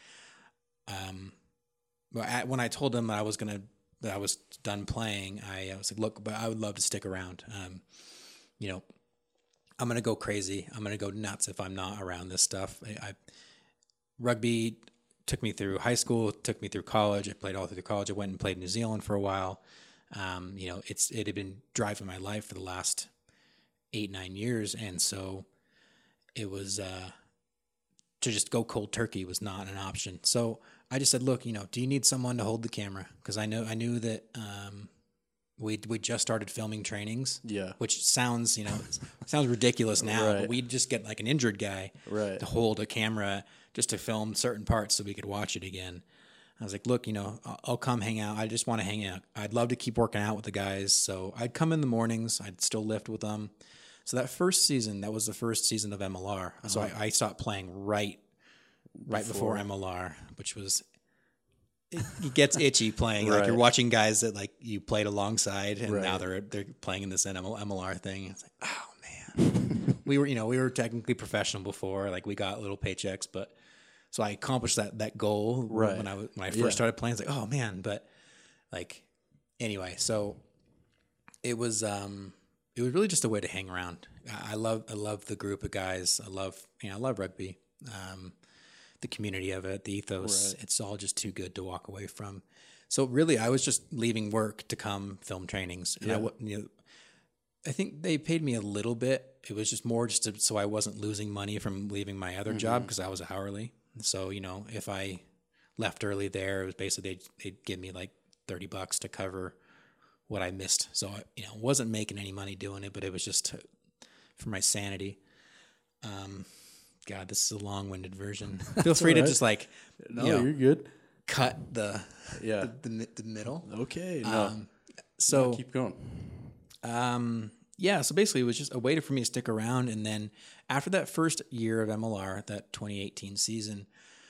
when I told them that I was done playing, I was like, look, but I would love to stick around. I'm going to go crazy. I'm going to go nuts if I'm not around this stuff. Rugby took me through high school, took me through college. I played all through college. I went and played in New Zealand for a while. It had been driving my life for the last 8-9 years. And so it was, to just go cold turkey was not an option. So I just said, look, do you need someone to hold the camera? Because I knew that we just started filming trainings. Yeah. Which sounds ridiculous now, but we'd just get like an injured guy to hold a camera just to film certain parts so we could watch it again. I was like, look, I'll come hang out. I just want to hang out. I'd love to keep working out with the guys. So I'd come in the mornings. I'd still lift with them. So that first season, that was the first season of MLR. Uh-huh. So I stopped playing right before MLR, which was it gets itchy playing. Like Right. you're watching guys that like you played alongside, and Right. now they're playing in this MLR thing. It's like, oh man, we were technically professional before. Like we got little paychecks, but so I accomplished that goal Right. when I first started playing. It's like, oh man, but like anyway, so it was really just a way to hang around. I love the group of guys. I love rugby. The community of it, the ethos, Right. it's all just too good to walk away from. So really, I was just leaving work to come film trainings. And I think they paid me a little bit. It was just more so I wasn't losing money from leaving my other job because I was hourly. So, if I left early there, it was basically they'd give me like $30 to cover what I missed. So, wasn't making any money doing it, but it was just for my sanity. God, this is a long-winded version. Feel free to just like, No, you're good. cut the middle. Okay. No. So Keep going. so basically it was just a way for me to stick around. And then after that first year of MLR, that 2018 season,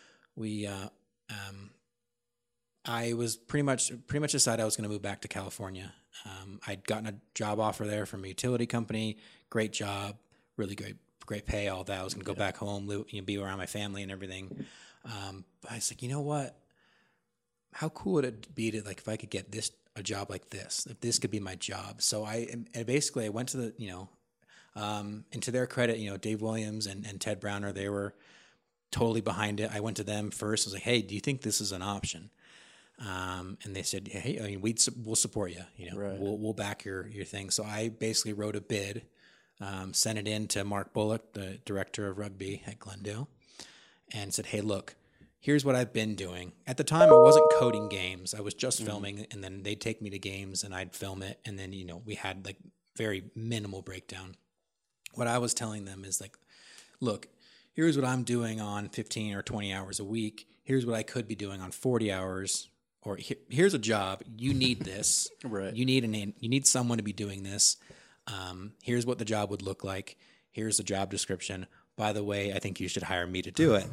I was pretty much decided I was going to move back to California. I'd gotten a job offer there from a utility company, great job, really great pay, all that. I was going to go back home, live, be around my family and everything. But I was like, you know what? How cool would it be to, like, if I could get a job like this, if this could be my job. So I went to the, and to their credit, Dave Williams and Ted Browner, they were totally behind it. I went to them first. I was like, hey, do you think this is an option? And they said, hey, I mean, we'll support you. Right. We'll back your thing. So I basically wrote a bid, sent it in to Mark Bullock, the director of rugby at Glendale, and said, hey, look, here's what I've been doing. At the time, I wasn't coding games. I was just filming, and then they'd take me to games, and I'd film it, and then, we had, like, very minimal breakdown. What I was telling them is, like, look, here's what I'm doing on 15 or 20 hours a week. Here's what I could be doing on 40 hours. Or here's a job. You need this. Right. You need someone to be doing this. Here's what the job would look like. Here's the job description. By the way, I think you should hire me to do it.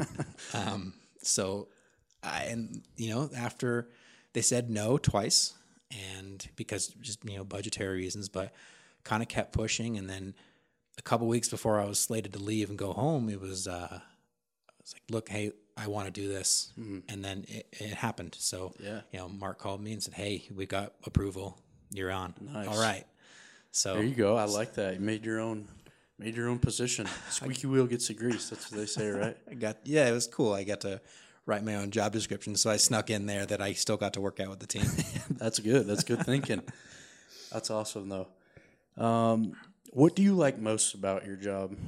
After they said no twice, and because just budgetary reasons, but kind of kept pushing, and then a couple weeks before I was slated to leave and go home, it was I was like, look, hey, I want to do this, and then it happened. So Mark called me and said, hey, we got approval. You're on. Nice. All right. So there you go. I like that. You made your own position. Squeaky wheel gets the grease. That's what they say, right? It was cool. I got to write my own job description, so I snuck in there that I still got to work out with the team. That's good. That's good thinking. That's awesome, though. What do you like most about your job?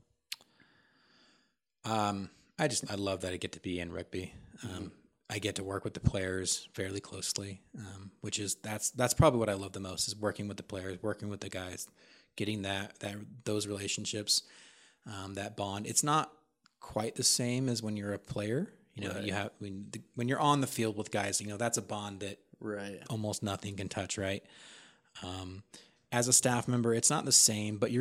I love that I get to be in rugby. I get to work with the players fairly closely, which is that's probably what I love the most, is working with the players, working with the guys, getting those relationships, that bond. It's not quite the same as when you're a player. Right. You have when you're on the field with guys, that's a bond that Right. almost nothing can touch, right? As a staff member, it's not the same, but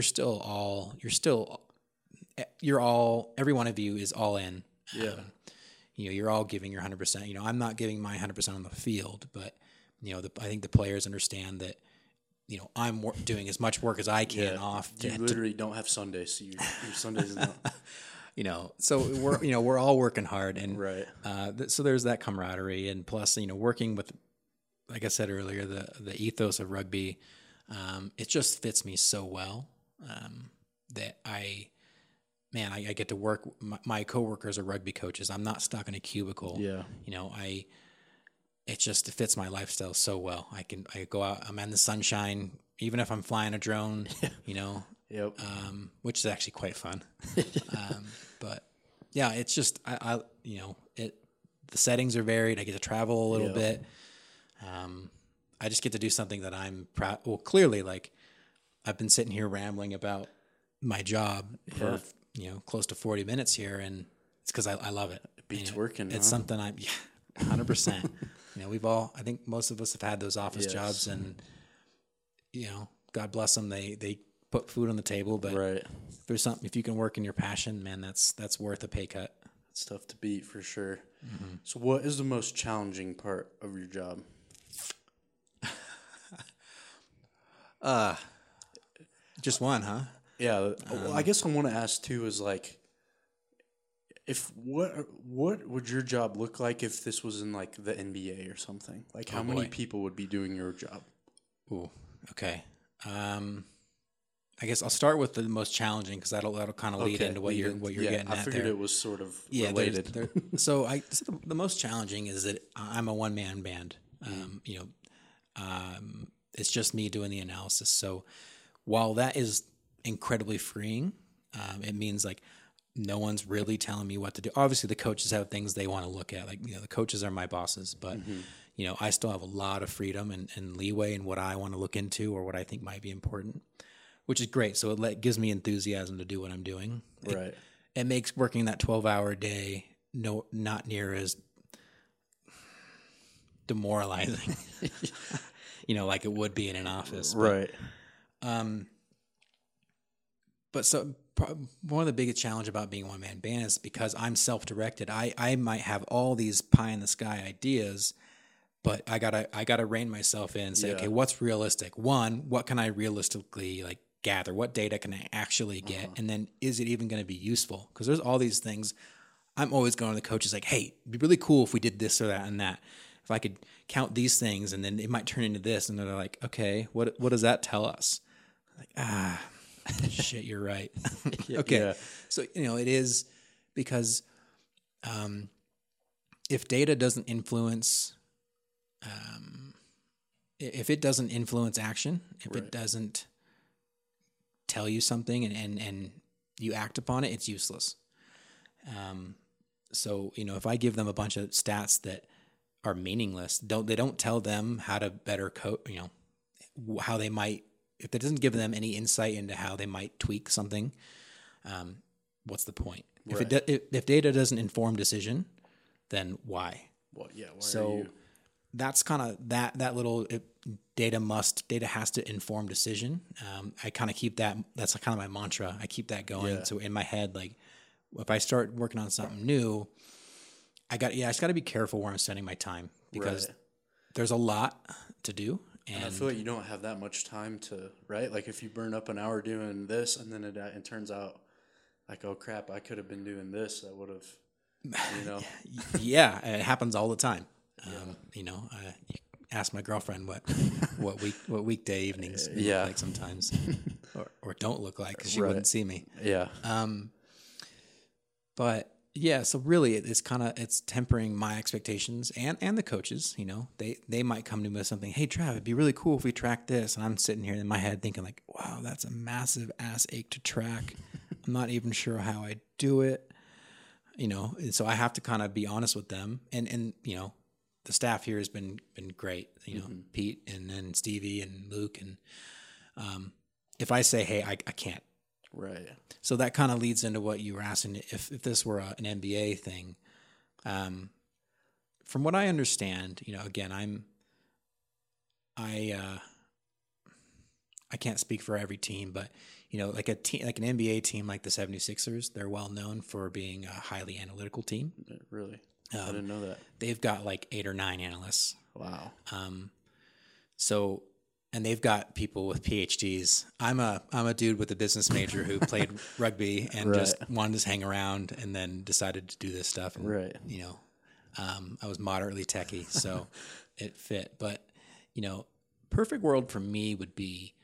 every one of you is all in. Yeah. You're all giving your 100%. I'm not giving my 100% on the field, but I think the players understand that I'm doing as much work as I can off. You literally don't have Sundays. So your Sundays is not. So we're all working hard, and Right. So there's that camaraderie, and plus working with, like I said earlier, the ethos of rugby, it just fits me so well that I get to work. My coworkers are rugby coaches. I'm not stuck in a cubicle. Yeah. It fits my lifestyle so well. I go out. I'm in the sunshine, even if I'm flying a drone. Yep. Which is actually quite fun. But yeah, it's just the settings are varied. I get to travel a little bit. I just get to do something that I'm proud. Well, clearly, like, I've been sitting here rambling about my job for close to 40 minutes here, and it's because I love it. It beats working. It's something 100%. I think most of us have had those office jobs, and God bless them. They put food on the table, but right. if you can work in your passion, man, that's worth a pay cut. It's tough to beat for sure. Mm-hmm. So what is the most challenging part of your job? Just one, huh? Yeah. Well, I guess I want to ask too is like, if what would your job look like if this was in like the NBA or something? Like how many people would be doing your job? Ooh, okay. I guess I'll start with the most challenging because that'll kind of lead into what you're getting at. I figured it was sort of related. So the most challenging is that I'm a one man band. It's just me doing the analysis. So while that is incredibly freeing, it means like no one's really telling me what to do. Obviously, the coaches have things they want to look at. Like, the coaches are my bosses, but I still have a lot of freedom and leeway in what I want to look into or what I think might be important, which is great. So it gives me enthusiasm to do what I'm doing. Right. It makes working that 12-hour day not near as demoralizing, like it would be in an office. Right. But so one of the biggest challenge about being a one-man band is because I'm self-directed. I might have all these pie-in-the-sky ideas, but I gotta rein myself in and say, okay, what's realistic? One, what can I realistically gather? What data can I actually get? And then is it even going to be useful? Because there's all these things. I'm always going to the coaches like, hey, it'd be really cool if we did this or that and that. If I could count these things and then it might turn into this. And they're like, okay, what does that tell us? I'm like, shit, you're right. Okay. Yeah. So, it is because if data doesn't influence, if it doesn't influence action, if it doesn't tell you something and you act upon it, it's useless. So, if I give them a bunch of stats that are meaningless, they don't tell them how to better how they might, if it doesn't give them any insight into how they might tweak something, what's the point? Right. If data doesn't inform decision, then why? Well, yeah. So that's kind of that little data has to inform decision. I kind of keep that. That's kind of my mantra. I keep that going. Yeah. So in my head, if I start working on something new, I just got to be careful where I'm spending my time because there's a lot to do. And I feel like you don't have that much time to, right? Like if you burn up an hour doing this and then it turns out like, oh crap, I could have been doing this. That would have, Yeah, it happens all the time. You ask my girlfriend what weekday evenings look like sometimes, or don't look like because she wouldn't see me. Yeah. But yeah, so really it's tempering my expectations and the coaches. They might come to me with something. Hey, Trav, it'd be really cool if we tracked this, and I'm sitting here in my head thinking like, wow, that's a massive ass ache to track. I'm not even sure how I do it. And so I have to kind of be honest with them, and the staff here has been great. Pete and then Stevie and Luke, and if I say, hey, I can't. Right. So that kind of leads into what you were asking. If this were an NBA thing, from what I understand, again, I can't speak for every team, but like an NBA team like the 76ers, they're well known for being a highly analytical team. Really? I didn't know that. They've got 8 or 9 analysts. Wow. And they've got people with PhDs. I'm a dude with a business major who played rugby and just wanted to hang around and then decided to do this stuff. And, I was moderately techie, so it fit. But, perfect world for me would be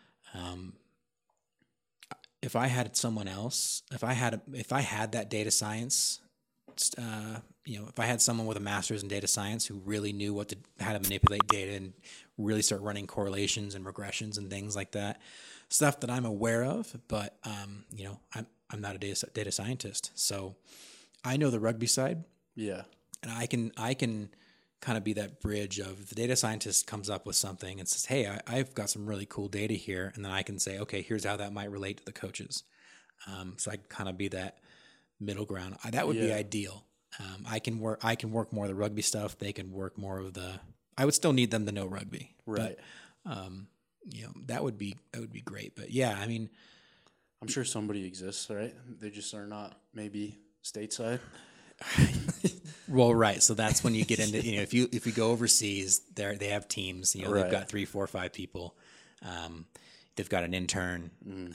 if I had someone else, if I had that data science, if I had someone with a master's in data science who really knew how to manipulate data and really start running correlations and regressions and things like that, stuff that I'm aware of, but I'm not a data scientist, so I know the rugby side. Yeah, and I can kind of be that bridge of the data scientist comes up with something and says, hey, I've got some really cool data here, and then I can say, okay, here's how that might relate to the coaches. So I can kind of be that middle ground. That would be ideal. I can work more of the rugby stuff. They can work more of the. I would still need them to know rugby, right? But, that would be great. But yeah, I mean, I'm sure somebody exists, right? They just are not maybe stateside. Well, right. So that's when you get into, if you go overseas, they have teams. Right. They've got 3, 4, 5 people. They've got an intern.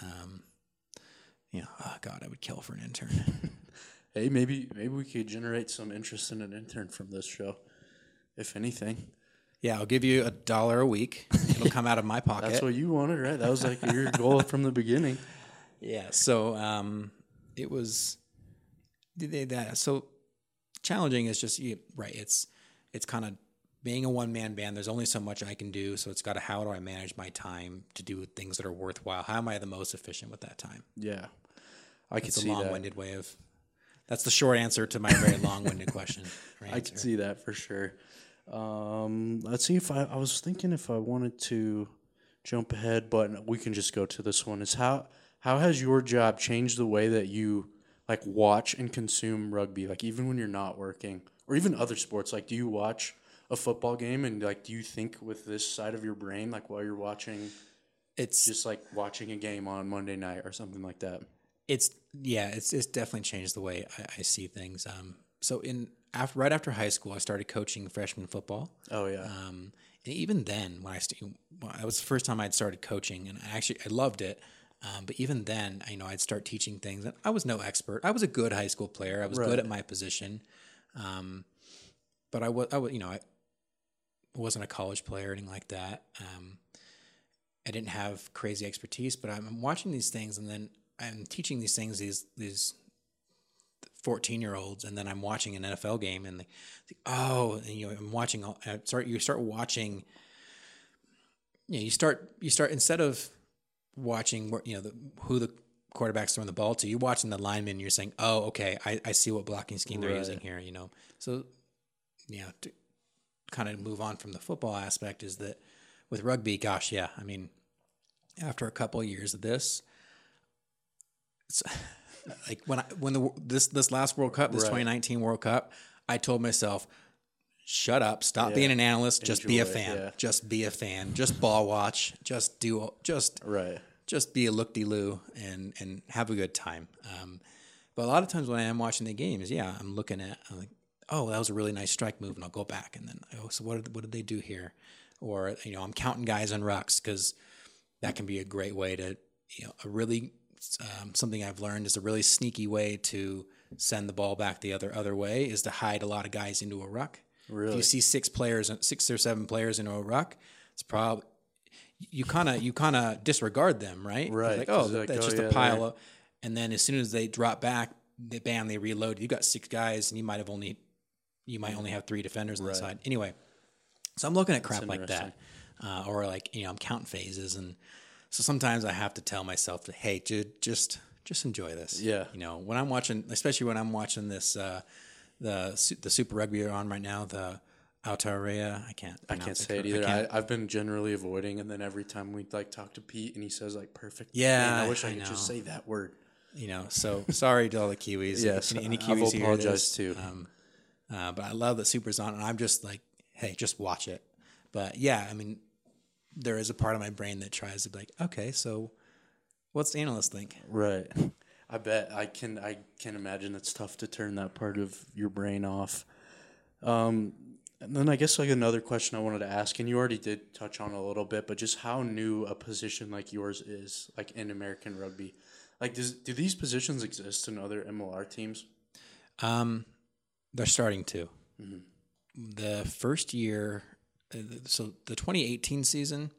Oh God, I would kill for an intern. Hey, maybe we could generate some interest in an intern from this show, if anything. Yeah, I'll give you $1 a week. It'll come out of my pocket. That's what you wanted, right? That was like your goal from the beginning. Yeah. So it was that. So challenging is just right. It's kind of being a one-man band. There's only so much I can do. So it's got to, how do I manage my time to do things that are worthwhile? How am I the most efficient with that time? Yeah, I could It's see a long-winded way of. That's the short answer to my very long-winded question. I could see that for sure. Let's see if I was thinking if I wanted to jump ahead, but we can just go to this one. Is how has your job changed the way that you like watch and consume rugby? Like even when you're not working, or even other sports. Like, do you watch a football game and like do you think with this side of your brain like while you're watching? It's just like watching a game on Monday night or something like that. It's definitely changed the way I see things. So right after high school, I started coaching freshman football. Oh yeah. And even then, when that was the first time I'd started coaching, and I loved it. But even then, I'd start teaching things, and I was no expert. I was a good high school player. I was good at my position, but I wasn't a college player or anything like that. I didn't have crazy expertise, but I'm watching these things, and then I'm teaching these things these 14-year-olds, and then I'm watching an NFL game, and I'm watching. You start watching. You start instead of watching who the quarterback's throwing the ball to. You're watching the lineman. And you're saying, "Oh, okay, I see what blocking scheme they're using here." So to kind of move on from the football aspect is that with rugby, gosh, yeah, I mean, after a couple of years of this. It's like this last World Cup, this 2019 World Cup, I told myself, shut up, stop being an analyst, just be a fan. Yeah. Just be a fan. Just ball watch. Just be a look-de-loo and have a good time. But a lot of times when I am watching the games, I'm looking at, I'm like, oh, that was a really nice strike move, and I'll go back and then, so what did they do here? Or I'm counting guys on rucks, because that can be a great way to a really something I've learned is a really sneaky way to send the ball back the other way is to hide a lot of guys into a ruck. Really? If you see 6 or 7 players into a ruck, it's probably you kind of disregard them, right? Right. Like, that's just a pile of, and then as soon as they drop back, they reload. You got 6 guys, and you might only have 3 defenders on the side. Anyway, so I'm looking at crap like that, or like I'm counting phases and. So sometimes I have to tell myself that, hey, dude, just enjoy this. Yeah. When I'm watching, especially when I'm watching this, the Super Rugby are on right now, the Aotearoa. I can't say it either. I've been generally avoiding, and then every time we like talk to Pete, and he says like perfect. Yeah. Man, I wish I could just say that word. So sorry to all the Kiwis. Yes, any Kiwis I apologize too. But I love that Super's on, and I'm just like, hey, just watch it. But yeah, I mean. There is a part of my brain that tries to be like, okay, so what's the analyst think? Right. I bet I can imagine it's tough to turn that part of your brain off. And then I guess like another question I wanted to ask, and you already did touch on a little bit, but just how new a position like yours is, like in American rugby. Like, do these positions exist in other MLR teams? They're starting to. Mm-hmm. The first year. So the 2018 season,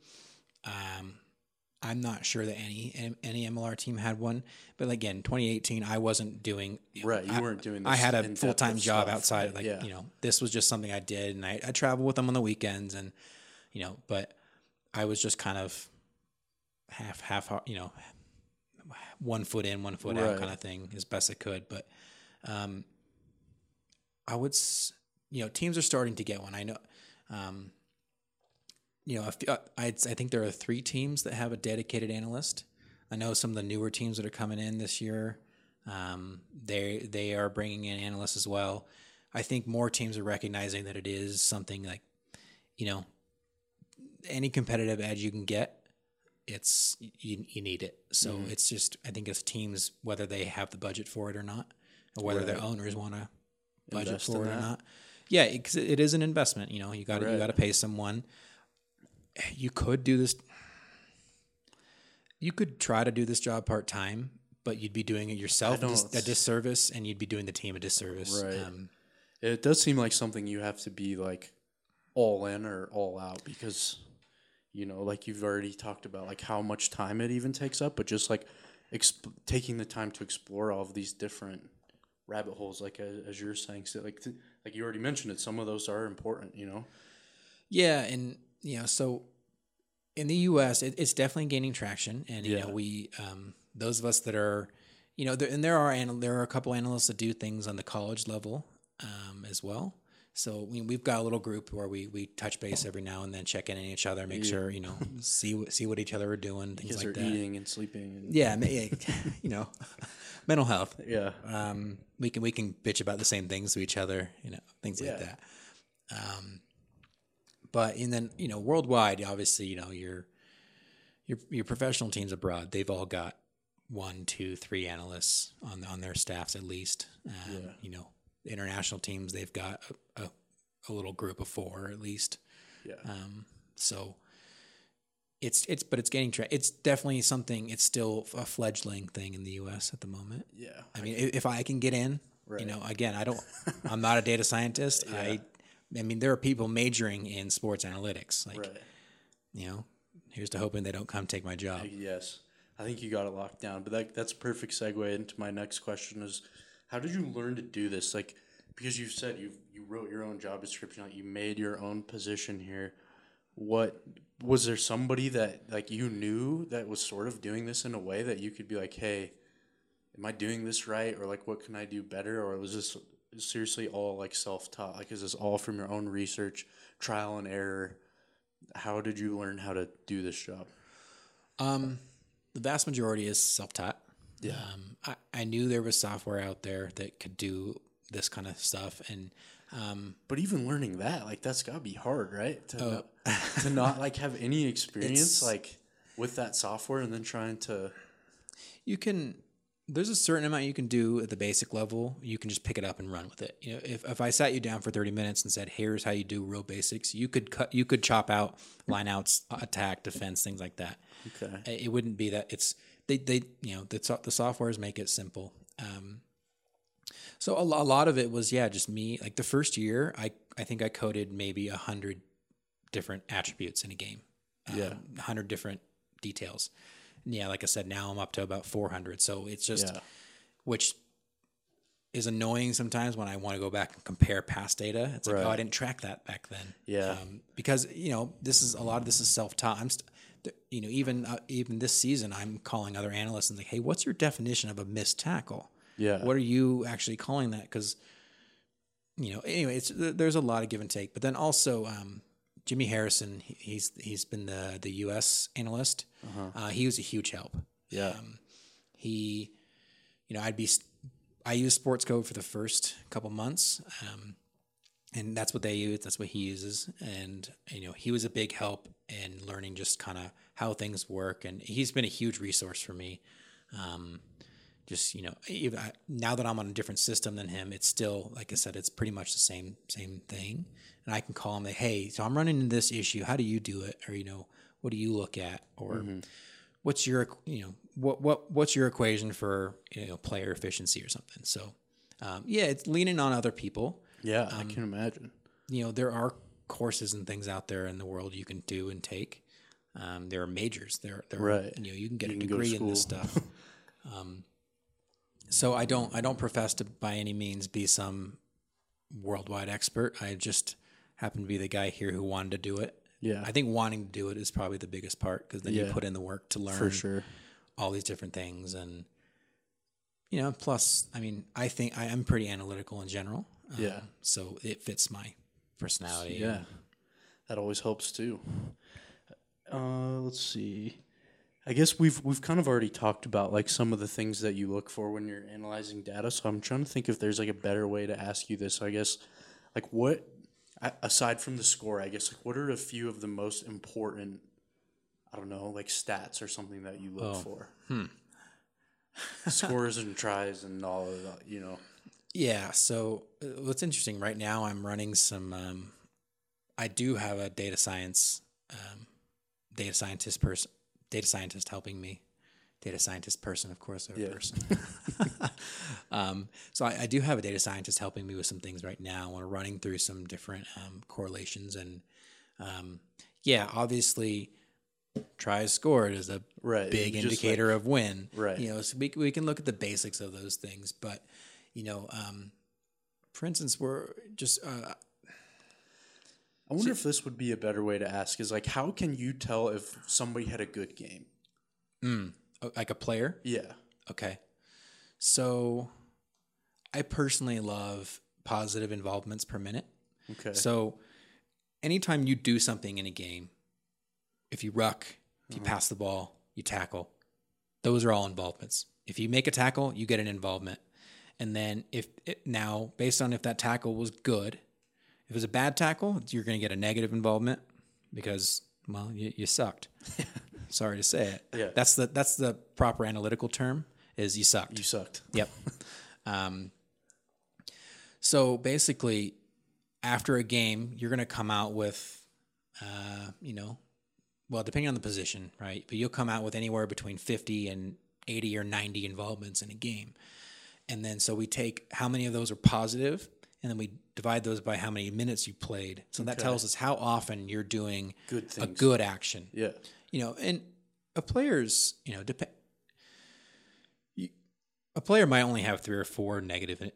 I'm not sure that any MLR team had one. But again, 2018, I wasn't doing. Right, you weren't doing this. I had a full-time job outside. This was just something I did, and I traveled with them on the weekends, and but I was just kind of half, one foot in, one foot out kind of thing as best I could. But I would, teams are starting to get one. I know. I think there are 3 teams that have a dedicated analyst. I know some of the newer teams that are coming in this year, they are bringing in analysts as well. I think more teams are recognizing that it is something like, any competitive edge you can get, you need it. So it's just, I think it's teams, whether they have the budget for it or not, or whether their owners want to budget invest for in it or that. not. Yeah, because it is an investment. You know, you got Right. to pay someone. You could do this. You could try to do this job part time, but you'd be doing it yourself a disservice, and you'd be doing the team a disservice. Right. It does seem like something you have to be like all in or all out because, you know, like you've already talked about, like how much time it even takes up, but just like taking the time to explore all of these different rabbit holes, like as you're saying, so like you already mentioned it, some of those are important, you know. Yeah, and so in the U.S., it's definitely gaining traction, and Yeah. we those of us that are, there are a couple analysts that do things on the college level as well. So we've got a little group where we touch base every now and then, check in on each other, make sure see what each other are doing, things Because like they're that. eating and sleeping. And Yeah, mental health. Yeah. We can bitch about the same things to each other, things like Yeah. that. But and then worldwide, obviously, your professional teams abroad, they've all got 1, 2, 3 analysts on their staffs at least. International teams, they've got a little group of 4 at least. Yeah. So it's gaining traction. It's definitely something. It's still a fledgling thing in the U.S. at the moment. Yeah. I mean, if I can get in, Right. Again, I'm not a data scientist. Yeah. I mean, there are people majoring in sports analytics. Like, Right. Here's to hoping they don't come take my job. Yes. I think you got it locked down. But that's a perfect segue into my next question is, how did you learn to do this? Like, because you've said you wrote your own job description, like you made your own position here. What was there somebody that like you knew that was sort of doing this in a way that you could be like, hey, am I doing this right? Or like, what can I do better? Or was this seriously all like self-taught? Like, is this all from your own research, trial and error? How did you learn how to do this job? The vast majority is self-taught. Yeah. I knew there was software out there that could do this kind of stuff, and but even learning that, like, that's gotta be hard, right? To not like have any experience like with that software, and then trying to. There's a certain amount you can do at the basic level. You can just pick it up and run with it. If I sat you down for 30 minutes and said, "Here's how you do real basics," you could chop out lineouts, attack, defense, things like that. Okay. It wouldn't be that. It's the softwares make it simple. So a lot of it was just me. Like the first year, I think I coded maybe 100 different attributes in a game. 100 different details. Yeah, like I said, now I'm up to about 400. So it's just, which is annoying sometimes when I want to go back and compare past data. It's like, I didn't track that back then. Yeah. Because a lot of this is self-taught. Even this season, I'm calling other analysts and like, hey, what's your definition of a missed tackle? Yeah. What are you actually calling that? Because anyway, there's a lot of give and take. But then also, Jimmy Harrison, he's been the U.S. analyst. He was a huge help. Yeah. I used Sports Code for the first couple months, and that's what they use. That's what he uses, and he was a big help in learning just kind of how things work, and he's been a huge resource for me. Even now that I'm on a different system than him, it's still, like I said, it's pretty much the same thing. And I can call him like, hey, so I'm running into this issue. How do you do it? Or, what do you look at? Or what's your, what's your equation for, player efficiency or something? So, it's leaning on other people. Yeah, I can imagine. There are courses and things out there in the world you can do and take. There are majors. There right. You can get a degree in this stuff. So I don't profess to by any means be some worldwide expert. I just happen to be the guy here who wanted to do it. Yeah. I think wanting to do it is probably the biggest part because then you put in the work to learn for sure all these different things. And, plus, I mean, I think I am pretty analytical in general. So it fits my personality. Yeah. That always helps too. Let's see. I guess we've kind of already talked about like some of the things that you look for when you're analyzing data. So I'm trying to think if there's like a better way to ask you this. I guess like what, aside from the score, I guess like what are a few of the most important, I don't know, like stats or something that you look for? Scores and tries and all of that, Yeah. So what's interesting right now, I'm running some. I do have a um, data scientist person, data scientist helping me. Data scientist person, of course, they're a person. So I do have a data scientist helping me with some things right now. We're running through some different correlations, and yeah, obviously, tries scored is a Right. big Just indicator of win. Right. So we can look at the basics of those things, but for instance, we're just I wonder if this would be a better way to ask is like, how can you tell if somebody had a good game? like a player. Yeah. Okay, so I personally love positive involvements per minute. Okay. So anytime you do something in a game, if you ruck, if you pass the ball, you tackle, those are all involvements. If you make a tackle, you get an involvement. And then now, based on if that tackle was good, if it was a bad tackle, you're going to get a negative involvement because, well, you sucked. Sorry to say it. Yeah. That's the proper analytical term is you sucked. You sucked. Yep. So basically, after a game, you're going to come out with, well, depending on the position, right? But you'll come out with anywhere between 50 and 80 or 90 involvements in a game. And then so we take how many of those are positive, and then we divide those by how many minutes you played. So that tells us how often you're doing Good a things. good action. Yeah. And a player's, a player might only have 3 or 4 negative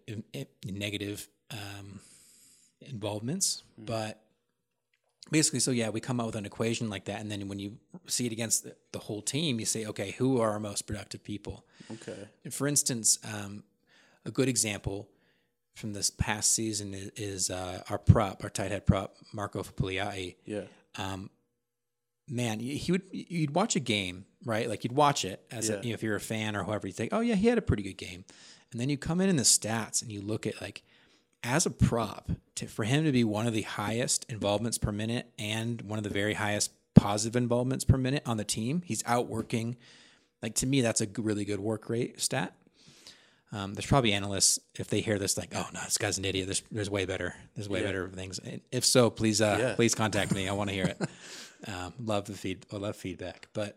involvements, but basically, so yeah, we come up with an equation like that, and then when you see it against the whole team, you say, okay, who are our most productive people? Okay. And for instance, a good example from this past season is our tight head prop, Marco Pugliai. Yeah. Man, you'd watch a game, right? Like you'd watch it as if you're a fan or whoever, you think, oh yeah, he had a pretty good game, and then you come in the stats and you look at like as a prop for him to be one of the highest involvements per minute and one of the very highest positive involvements per minute on the team. He's outworking. Like to me, that's a really good work rate stat. There's probably analysts, if they hear this, like, oh no, this guy's an idiot. There's way better. There's way better things. And if so, please contact me. I want to hear it. Love feedback. But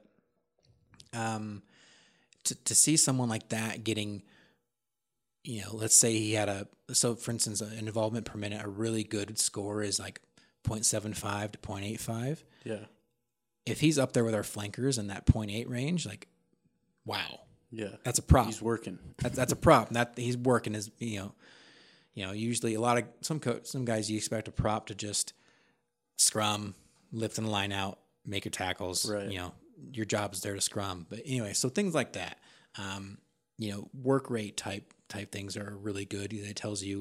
to see someone like that getting, let's say he had for instance, an involvement per minute, a really good score is like 0.75 to 0.85. Yeah. If he's up there with our flankers in that 0.8 range, like, wow. Yeah. That's a prop. He's working. That's a prop. That he's working is usually a lot of some guys you expect a prop to just scrum, lift in the line out, make your tackles. Right. Your job is there to scrum. But anyway, so things like that. Work rate type things are really good. It tells you,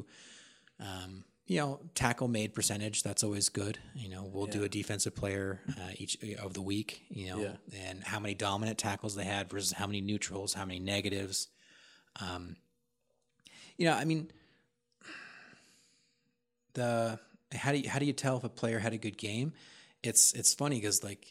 tackle made percentage. That's always good. We'll do a defensive player each of the week. And how many dominant tackles they had versus how many neutrals, how many negatives. How do you tell if a player had a good game? It's funny because like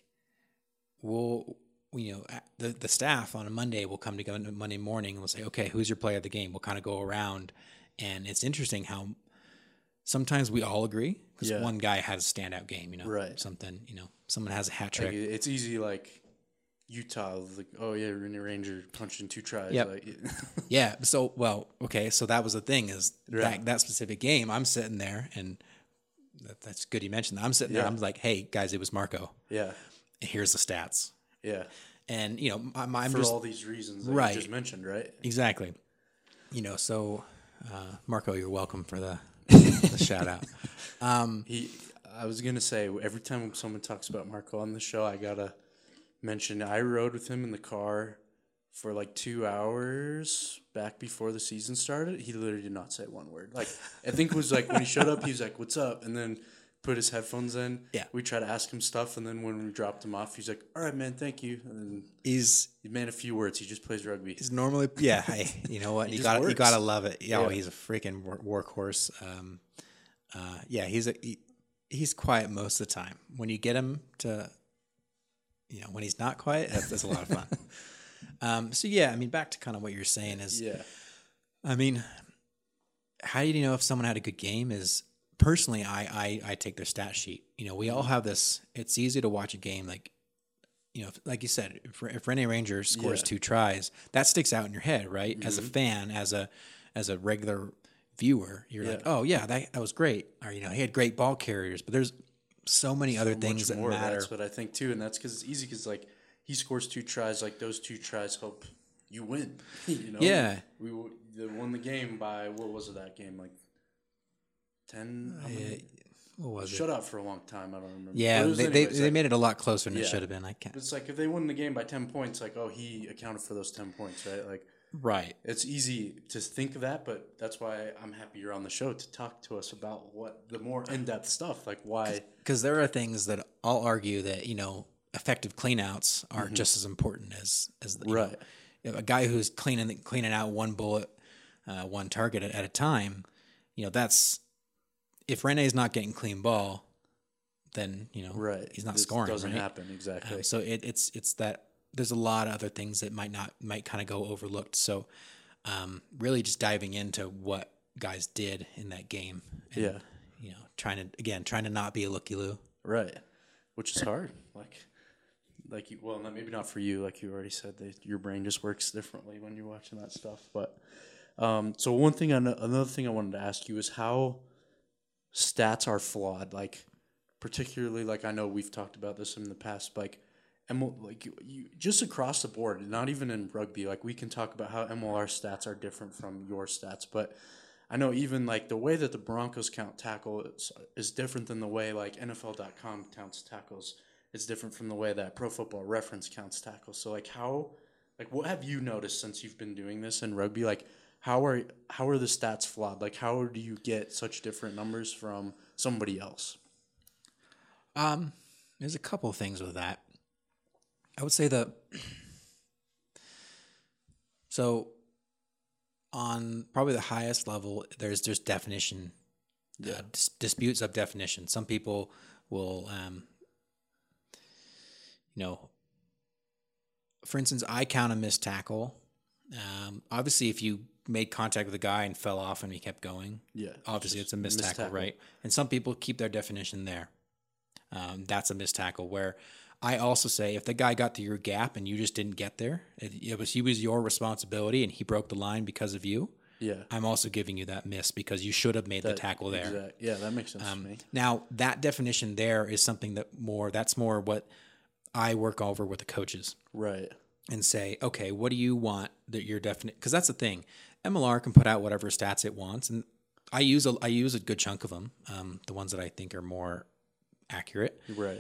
the staff on a Monday will come together Monday morning and we'll say, okay, who's your player of the game? We'll kind of go around, and it's interesting how sometimes we all agree because one guy has a standout game, right? Something, someone has a hat trick. Like, it's easy, like Utah, like, oh yeah, Ranger punched in 2 tries. Yep. Like, yeah. So, okay. So that was the thing is that specific game, I'm sitting there, and that's good you mentioned that. I'm sitting there, I'm like, hey guys, it was Marco. Yeah. And here's the stats. Yeah. And, I'm for just all these reasons that you just mentioned, right? Exactly. So Marco, you're welcome for the shout out. I was going to say, every time someone talks about Marco on the show, I got to mention I rode with him in the car for like 2 hours back before the season started. He literally did not say one word. Like, I think it was like when he showed up, he was like, what's up? And then put his headphones in. Yeah. We tried to ask him stuff, and then when we dropped him off, he's like, all right, man, thank you. And then he's man, a few words. He just plays rugby. He's normally, hey, you know what? you gotta love it. Yeah. He's a freaking workhorse. He's quiet most of the time. When you get him to, when he's not quiet, that's a lot of fun. Back to kind of what you're saying is, how do you know if someone had a good game is personally, I take their stat sheet. We all have this. It's easy to watch a game like you said, if Rene Ranger scores 2 tries, that sticks out in your head, right? As a fan, as a regular viewer, you're like, oh yeah, that was great. Or he had great ball carriers, but there's so many other things that matter. That's what I think too, and that's because it's easy because like he scores 2 tries, like those 2 tries help you win. Yeah, we won the game by what was it that game like 10? What was it? Shut out for a long time. I don't remember. Yeah, they made it a lot closer than it should have been. I can't. It's like if they won the game by 10 points, like he accounted for those 10 points, right? Like. Right. It's easy to think of that, but that's why I'm happy you're on the show to talk to us about what the more in-depth stuff, like why. Because there are things that I'll argue that, effective cleanouts are just as important as right. A guy who's cleaning out one bullet, one target at a time, that's if Rene's not getting clean ball, then, right. he's not scoring. It doesn't right? happen, exactly. So it's that. There's a lot of other things that might kind of go overlooked. So, really just diving into what guys did in that game. And, trying to not be a looky-loo. Right. Which is hard. Maybe not for you. Like you already said, your brain just works differently when you're watching that stuff. But, so another thing I wanted to ask you is how stats are flawed. Like, particularly, like I know we've talked about this in the past, like, you just across the board, not even in rugby, like we can talk about how MLR stats are different from your stats, but I know even like the way that the Broncos count tackles is different than the way like NFL.com counts tackles. It's different from the way that Pro Football Reference counts tackles. So what have you noticed since you've been doing this in rugby? Like how are the stats flawed? Like how do you get such different numbers from somebody else? There's a couple of things with that. I would say so on probably the highest level, there's definition, disputes of definition. Some people will, for instance, I count a missed tackle. Obviously, if you made contact with a guy and fell off and he kept going, obviously it's a missed tackle, right? And some people keep their definition there. That's a missed tackle where I also say if the guy got to your gap and you just didn't get there, it was your responsibility and he broke the line because of you. Yeah, I'm also giving you that miss because you should have made the tackle there. Exactly. Yeah, that makes sense to me. Now that definition there is something that's more what I work over with the coaches, right? And say, okay, what do you want that your definite? Because that's the thing, MLR can put out whatever stats it wants, and I use a good chunk of them, the ones that I think are more accurate, right?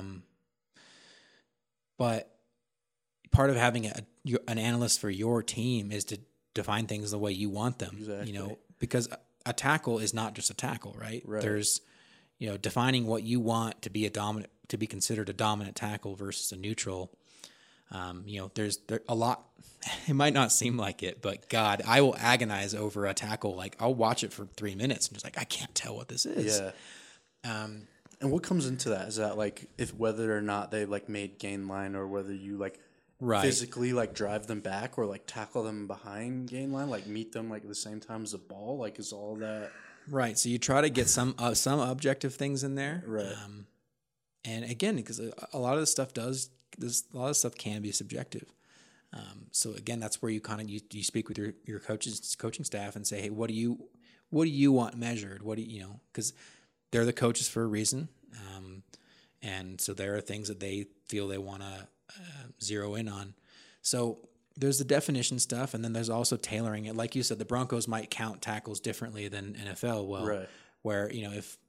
But part of having an analyst for your team is to define things the way you want them. Exactly. Because a tackle is not just a tackle, right? There's, defining what you want to be considered a dominant tackle versus a neutral. There's a lot. It might not seem like it, but God, I will agonize over a tackle. Like I'll watch it for 3 minutes and just like I can't tell what this is. Yeah. And what comes into that? Is that like if whether or not they like made gain line or whether you like physically like drive them back or like tackle them behind gain line, like meet them like at the same time as the ball? Like is all that right? So you try to get some objective things in there, right? And again, because a lot of this stuff can be subjective. So again, that's where you kind of you speak with your coaching staff and say, hey, what do you want measured? What do you because they're the coaches for a reason. And so there are things that they feel they want to zero in on. So there's the definition stuff, and then there's also tailoring it. Like you said, the Broncos might count tackles differently than NFL. Well, where, if,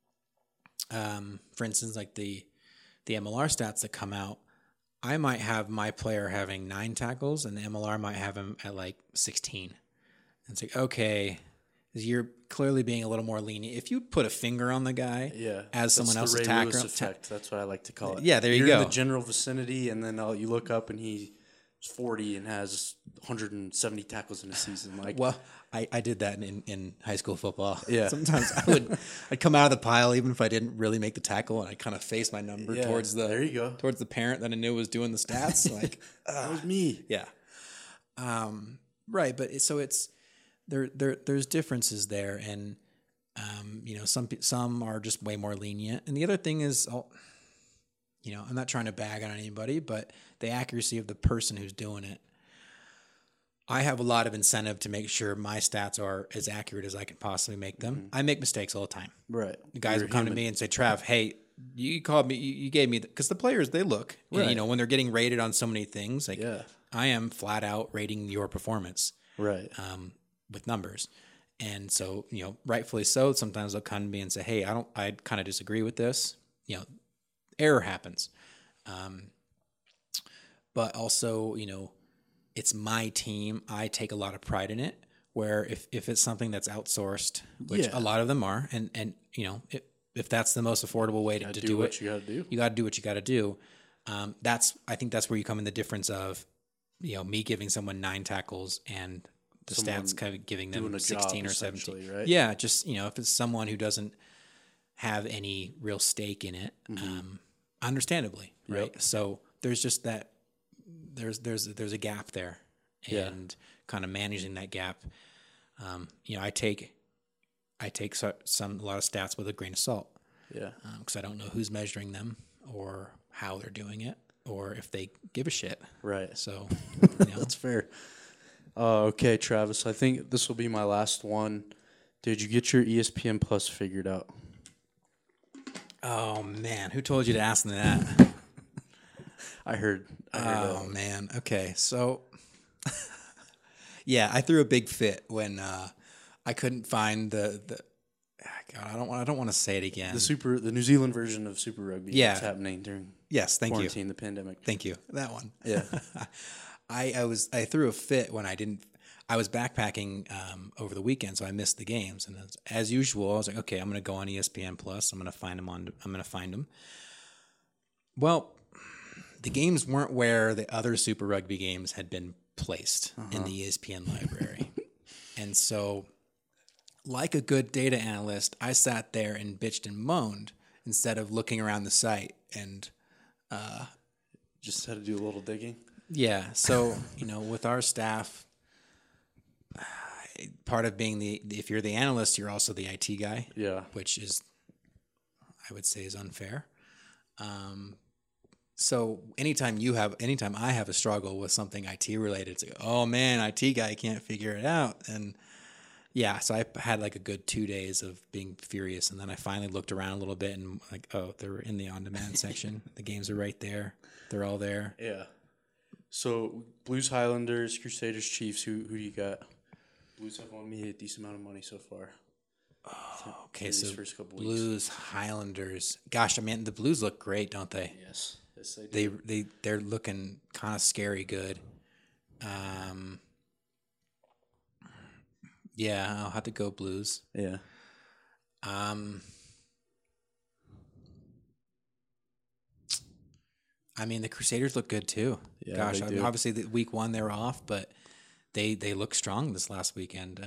for instance, like the MLR stats that come out, I might have my player having 9 tackles, and the MLR might have him at like 16. And it's like, okay, you're clearly being a little more lenient. If you put a finger on the guy as someone else's tackle. Effect. That's what I like to call it. Yeah, there you go. You're in the general vicinity, and then you look up and he's 40 and has 170 tackles in a season. Like, well, I did that in high school football. Yeah. Sometimes I'd come out of the pile even if I didn't really make the tackle, and I kind of face my number towards the parent that I knew was doing the stats. Like that was me. Yeah. Right, but it's there's differences there, and some are just way more lenient, and the other thing is, I'm not trying to bag on anybody, but the accuracy of the person who's doing it. I have a lot of incentive to make sure my stats are as accurate as I can possibly make them. Mm-hmm. I make mistakes all the time. Right. The guys will come to me and say, Trav, hey, you called me, you gave me, because the players, they look, right. And, when they're getting rated on so many things, like I am flat out rating your performance. Right. With numbers. And so, rightfully so, sometimes they'll come to me and say, hey, I kind of disagree with this. Error happens. But also, it's my team. I take a lot of pride in it, where if it's something that's outsourced, which a lot of them are, and if that's the most affordable way to do it, you got to do. You got to do what you got to do. I think that's where you come in the difference of, me giving someone 9 tackles and the stats kind of giving them 16 or 17. Right? Yeah, just if it's someone who doesn't have any real stake in it, understandably, right? Yep. So there's just that. There's a gap there, and kind of managing that gap. I take a lot of stats with a grain of salt. Yeah. Because I don't know who's measuring them or how they're doing it or if they give a shit. Right. So that's fair. Okay, Travis. I think this will be my last one. Did you get your ESPN Plus figured out? Oh man, who told you to ask me that? I heard man. Okay. So, I threw a big fit when I couldn't find the God, I don't want to say it again. The New Zealand version of Super Rugby. Yeah. That's happening during quarantine, the pandemic. Thank you. That one. Yeah. I threw a fit when I was backpacking over the weekend, so I missed the games. And as usual, I was like, okay, I'm going to go on ESPN Plus. I'm going to find them. Well, the games weren't where the other Super Rugby games had been placed in the ESPN library. And so, like a good data analyst, I sat there and bitched and moaned instead of looking around the site and just had to do a little digging. Yeah. So, with our staff, part of being if you're the analyst, you're also the IT guy. Yeah. Which is, I would say, is unfair. So anytime I have a struggle with something IT related, it's like, oh man, IT guy can't figure it out. And so I had like a good 2 days of being furious. And then I finally looked around a little bit and like, oh, they're in the on-demand section. The games are right there. They're all there. Yeah. So Blues, Highlanders, Crusaders, Chiefs, who do you got? Blues have won me a decent amount of money so far. Oh, okay, so first couple Blues, weeks. Highlanders. Gosh, I mean, the Blues look great, don't they? Yes, they do. They're looking kind of scary good. I'll have to go Blues. Yeah. I mean, the Crusaders look good too. Yeah, gosh, obviously week 1 they're off, but they look strong this last weekend.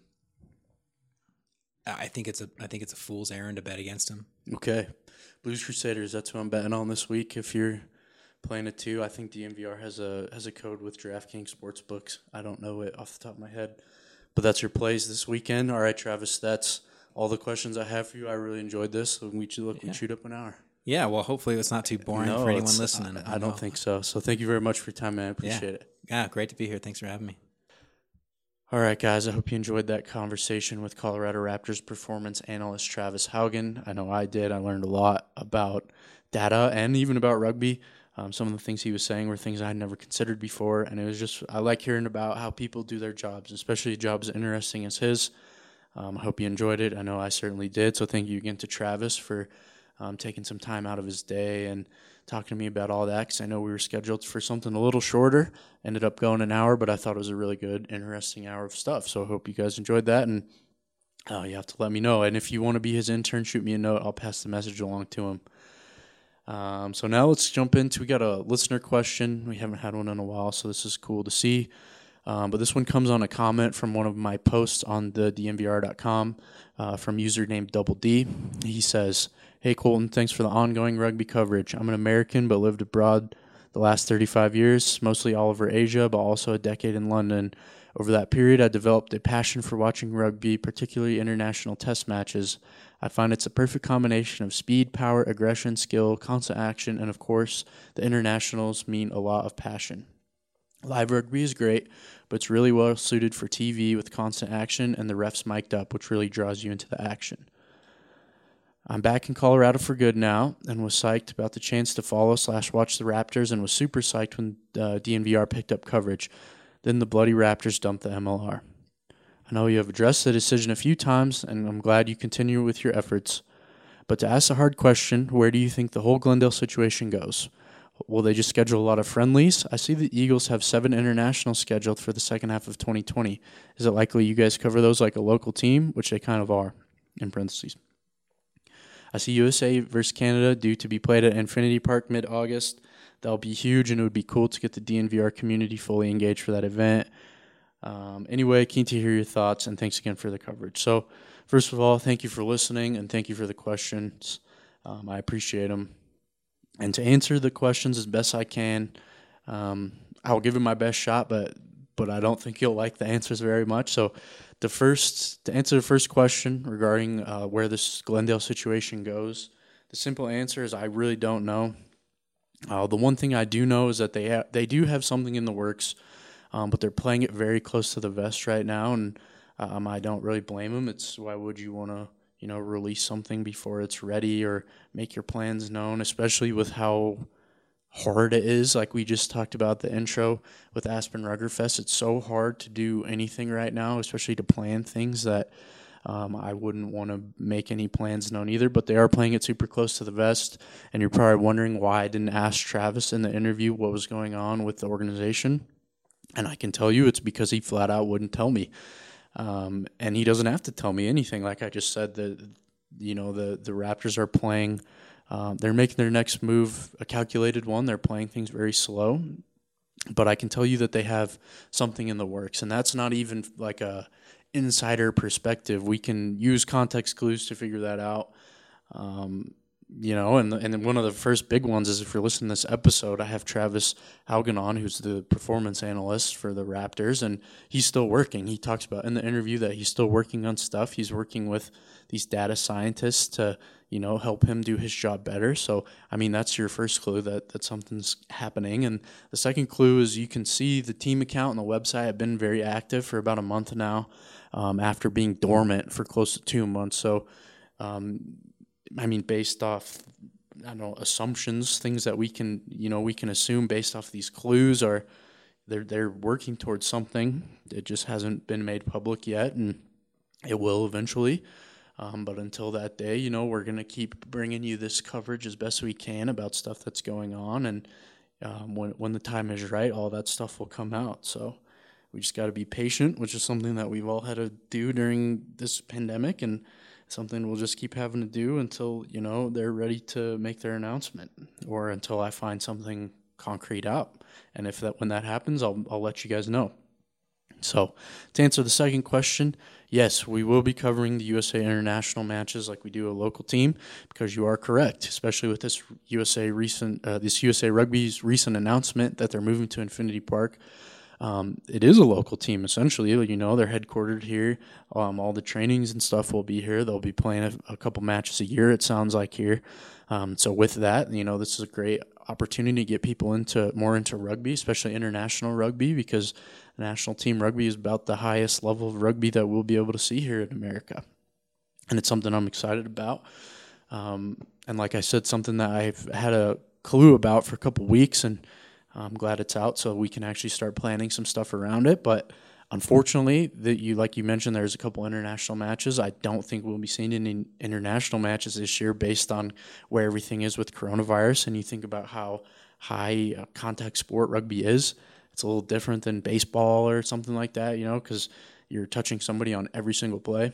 I think it's a fool's errand to bet against them. Okay, Blues Crusaders. That's who I'm betting on this week. If you're playing it too, I think DNVR has a code with DraftKings Sportsbooks. I don't know it off the top of my head, but that's your plays this weekend. All right, Travis, that's all the questions I have for you. I really enjoyed this. So we chewed up an hour. Yeah, well, hopefully it's not too boring for anyone listening. I don't think so. So thank you very much for your time, man. I appreciate it. Yeah, great to be here. Thanks for having me. All right, guys, I hope you enjoyed that conversation with Colorado Raptors performance analyst Travis Haugen. I know I did. I learned a lot about data and even about rugby. Some of the things he was saying were things I had never considered before, and it was just, I like hearing about how people do their jobs, especially jobs as interesting as his. I hope you enjoyed it. I know I certainly did, so thank you again to Travis for taking some time out of his day and talking to me about all that, because I know we were scheduled for something a little shorter, ended up going an hour, but I thought it was a really good, interesting hour of stuff. So I hope you guys enjoyed that, and you have to let me know. And if you want to be his intern, shoot me a note. I'll pass the message along to him. So now let's jump into, we got a listener question. We haven't had one in a while, so this is cool to see. But this one comes on a comment from one of my posts on the DNVR.com from user named Double D. He says, "Hey Colton, thanks for the ongoing rugby coverage. I'm an American but lived abroad the last 35 years, mostly all over Asia, but also a decade in London. Over that period, I developed a passion for watching rugby, particularly international test matches. I find it's a perfect combination of speed, power, aggression, skill, constant action, and of course, the internationals mean a lot of passion. Live rugby is great, but it's really well suited for TV with constant action and the refs mic'd up, which really draws you into the action. I'm back in Colorado for good now and was psyched about the chance to follow/watch the Raptors and was super psyched when DNVR picked up coverage. Then the bloody Raptors dumped the MLR. I know you have addressed the decision a few times, and I'm glad you continue with your efforts. But to ask a hard question, where do you think the whole Glendale situation goes? Will they just schedule a lot of friendlies? I see the Eagles have 7 internationals scheduled for the second half of 2020. Is it likely you guys cover those like a local team, which they kind of are, in parentheses? I see USA versus Canada due to be played at Infinity Park mid-August. That'll be huge, and it would be cool to get the DNVR community fully engaged for that event. Anyway, keen to hear your thoughts, and thanks again for the coverage. So, first of all, thank you for listening, and thank you for the questions. I appreciate them. And to answer the questions as best I can, I'll give it my best shot, but I don't think you'll like the answers very much. So, to answer the first question regarding where this Glendale situation goes, the simple answer is I really don't know. The one thing I do know is that they do have something in the works, but they're playing it very close to the vest right now, and I don't really blame them. It's why would you want to release something before it's ready or make your plans known, especially with how hard it is. Like we just talked about the intro with Aspen Ruggerfest, it's so hard to do anything right now, especially to plan things that I wouldn't want to make any plans known either, but they are playing it super close to the vest, and you're probably wondering why I didn't ask Travis in the interview what was going on with the organization, and I can tell you it's because he flat out wouldn't tell me. And he doesn't have to tell me anything. Like I just said, the Raptors are playing. They're making their next move a calculated one. They're playing things very slow, but I can tell you that they have something in the works, and that's not even like a insider perspective. We can use context clues to figure that out. And then one of the first big ones is if you're listening to this episode, I have Travis Haugen on, who's the performance analyst for the Raptors, and he's still working. He talks about in the interview that he's still working on stuff. He's working with these data scientists to, help him do his job better. So, that's your first clue that something's happening. And the second clue is you can see the team account and the website have been very active for about a month now, after being dormant for close to 2 months. So, based off, assumptions, things that we can assume based off these clues are they're working towards something. It just hasn't been made public yet, and it will eventually. But until that day, we're going to keep bringing you this coverage as best we can about stuff that's going on. And when the time is right, all that stuff will come out. So we just got to be patient, which is something that we've all had to do during this pandemic, and something we'll just keep having to do until, they're ready to make their announcement or until I find something concrete out. And when that happens, I'll let you guys know. So to answer the second question, yes, we will be covering the USA international matches like we do a local team, because you are correct, especially with this USA Rugby's recent announcement that they're moving to Infinity Park. It is a local team, essentially. They're headquartered here. All the trainings and stuff will be here. They'll be playing a couple matches a year, it sounds like, here. So with that, this is a great opportunity to get people more into rugby, especially international rugby, because national team rugby is about the highest level of rugby that we'll be able to see here in America. And it's something I'm excited about. And like I said, something that I've had a clue about for a couple weeks, and I'm glad it's out so we can actually start planning some stuff around it. But unfortunately, like you mentioned, there's a couple international matches. I don't think we'll be seeing any international matches this year based on where everything is with coronavirus. And you think about how high contact sport rugby is. It's a little different than baseball or something like that, because you're touching somebody on every single play.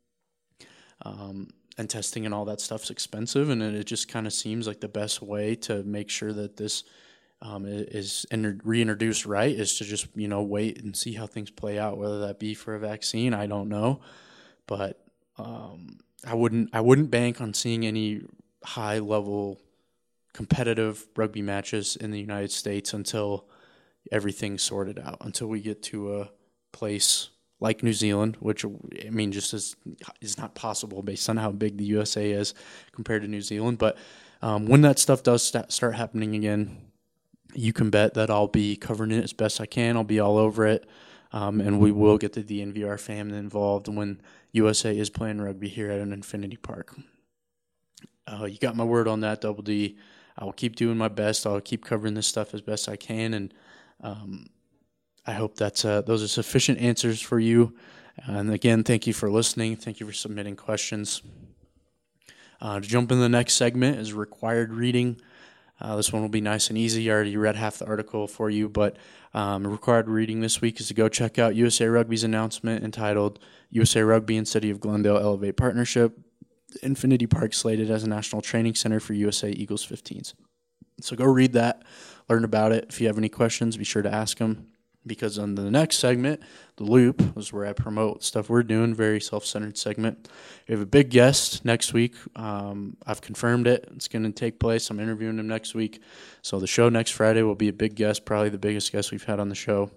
And testing and all that stuff's expensive, and it just kind of seems like the best way to make sure that this is reintroduced right is to just wait and see how things play out, whether that be for a vaccine, I don't know, but I wouldn't bank on seeing any high level competitive rugby matches in the United States until everything's sorted out, until we get to a place like New Zealand, which, I mean, just is not possible based on how big the USA is compared to New Zealand. But when that stuff does start happening again, you can bet that I'll be covering it as best I can. I'll be all over it, and we will get the DNVR family involved when USA is playing rugby here at an Infinity Park. You got my word on that, Double D. I will keep doing my best. I'll keep covering this stuff as best I can, and I hope that those are sufficient answers for you. And again, thank you for listening. Thank you for submitting questions. To jump in the next segment is required reading. This one will be nice and easy. I already read half the article for you, but required reading this week is to go check out USA Rugby's announcement entitled USA Rugby and City of Glendale Elevate Partnership. Infinity Park slated as a national training center for USA Eagles 15s. So go read that, learn about it. If you have any questions, be sure to ask them, because on the next segment, The Loop, is where I promote stuff we're doing, very self-centered segment. We have a big guest next week. I've confirmed it. It's going to take place. I'm interviewing him next week. So the show next Friday will be a big guest, probably the biggest guest we've had on the show.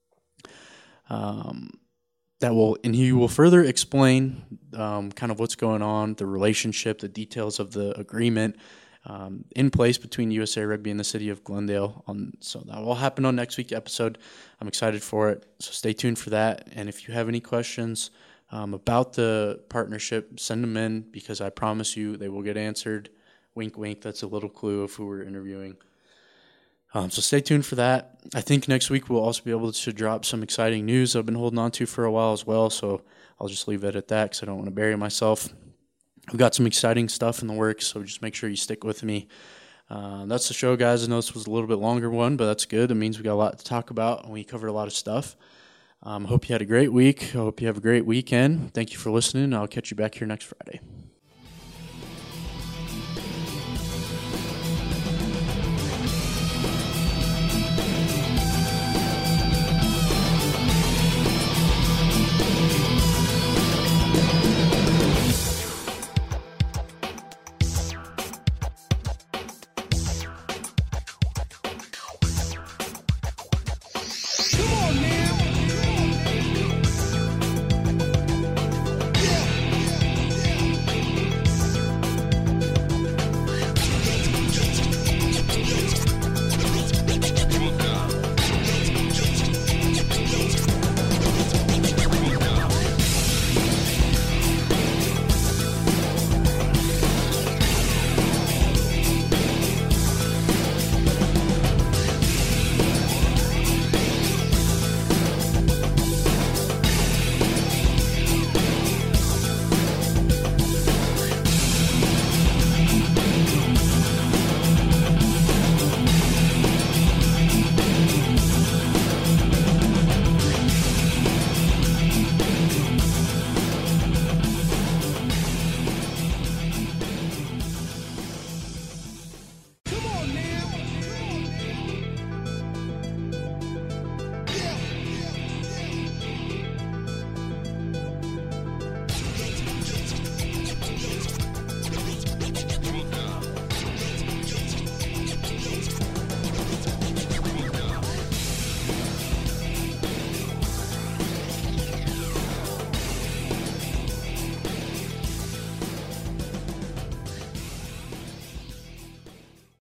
He will further explain kind of what's going on, the relationship, the details of the agreement in place between USA Rugby and the City of Glendale. So that will happen on next week's episode. I'm excited for it, so stay tuned for that. And if you have any questions about the partnership, send them in, because I promise you they will get answered. Wink, wink. That's a little clue of who we're interviewing. So stay tuned for that. I think next week we'll also be able to drop some exciting news I've been holding on to for a while as well, so I'll just leave it at that because I don't want to bury myself. We've got some exciting stuff in the works, so just make sure you stick with me. That's the show, guys. I know this was a little bit longer one, but that's good. It means we got a lot to talk about, and we covered a lot of stuff. Hope you had a great week. I hope you have a great weekend. Thank you for listening. I'll catch you back here next Friday.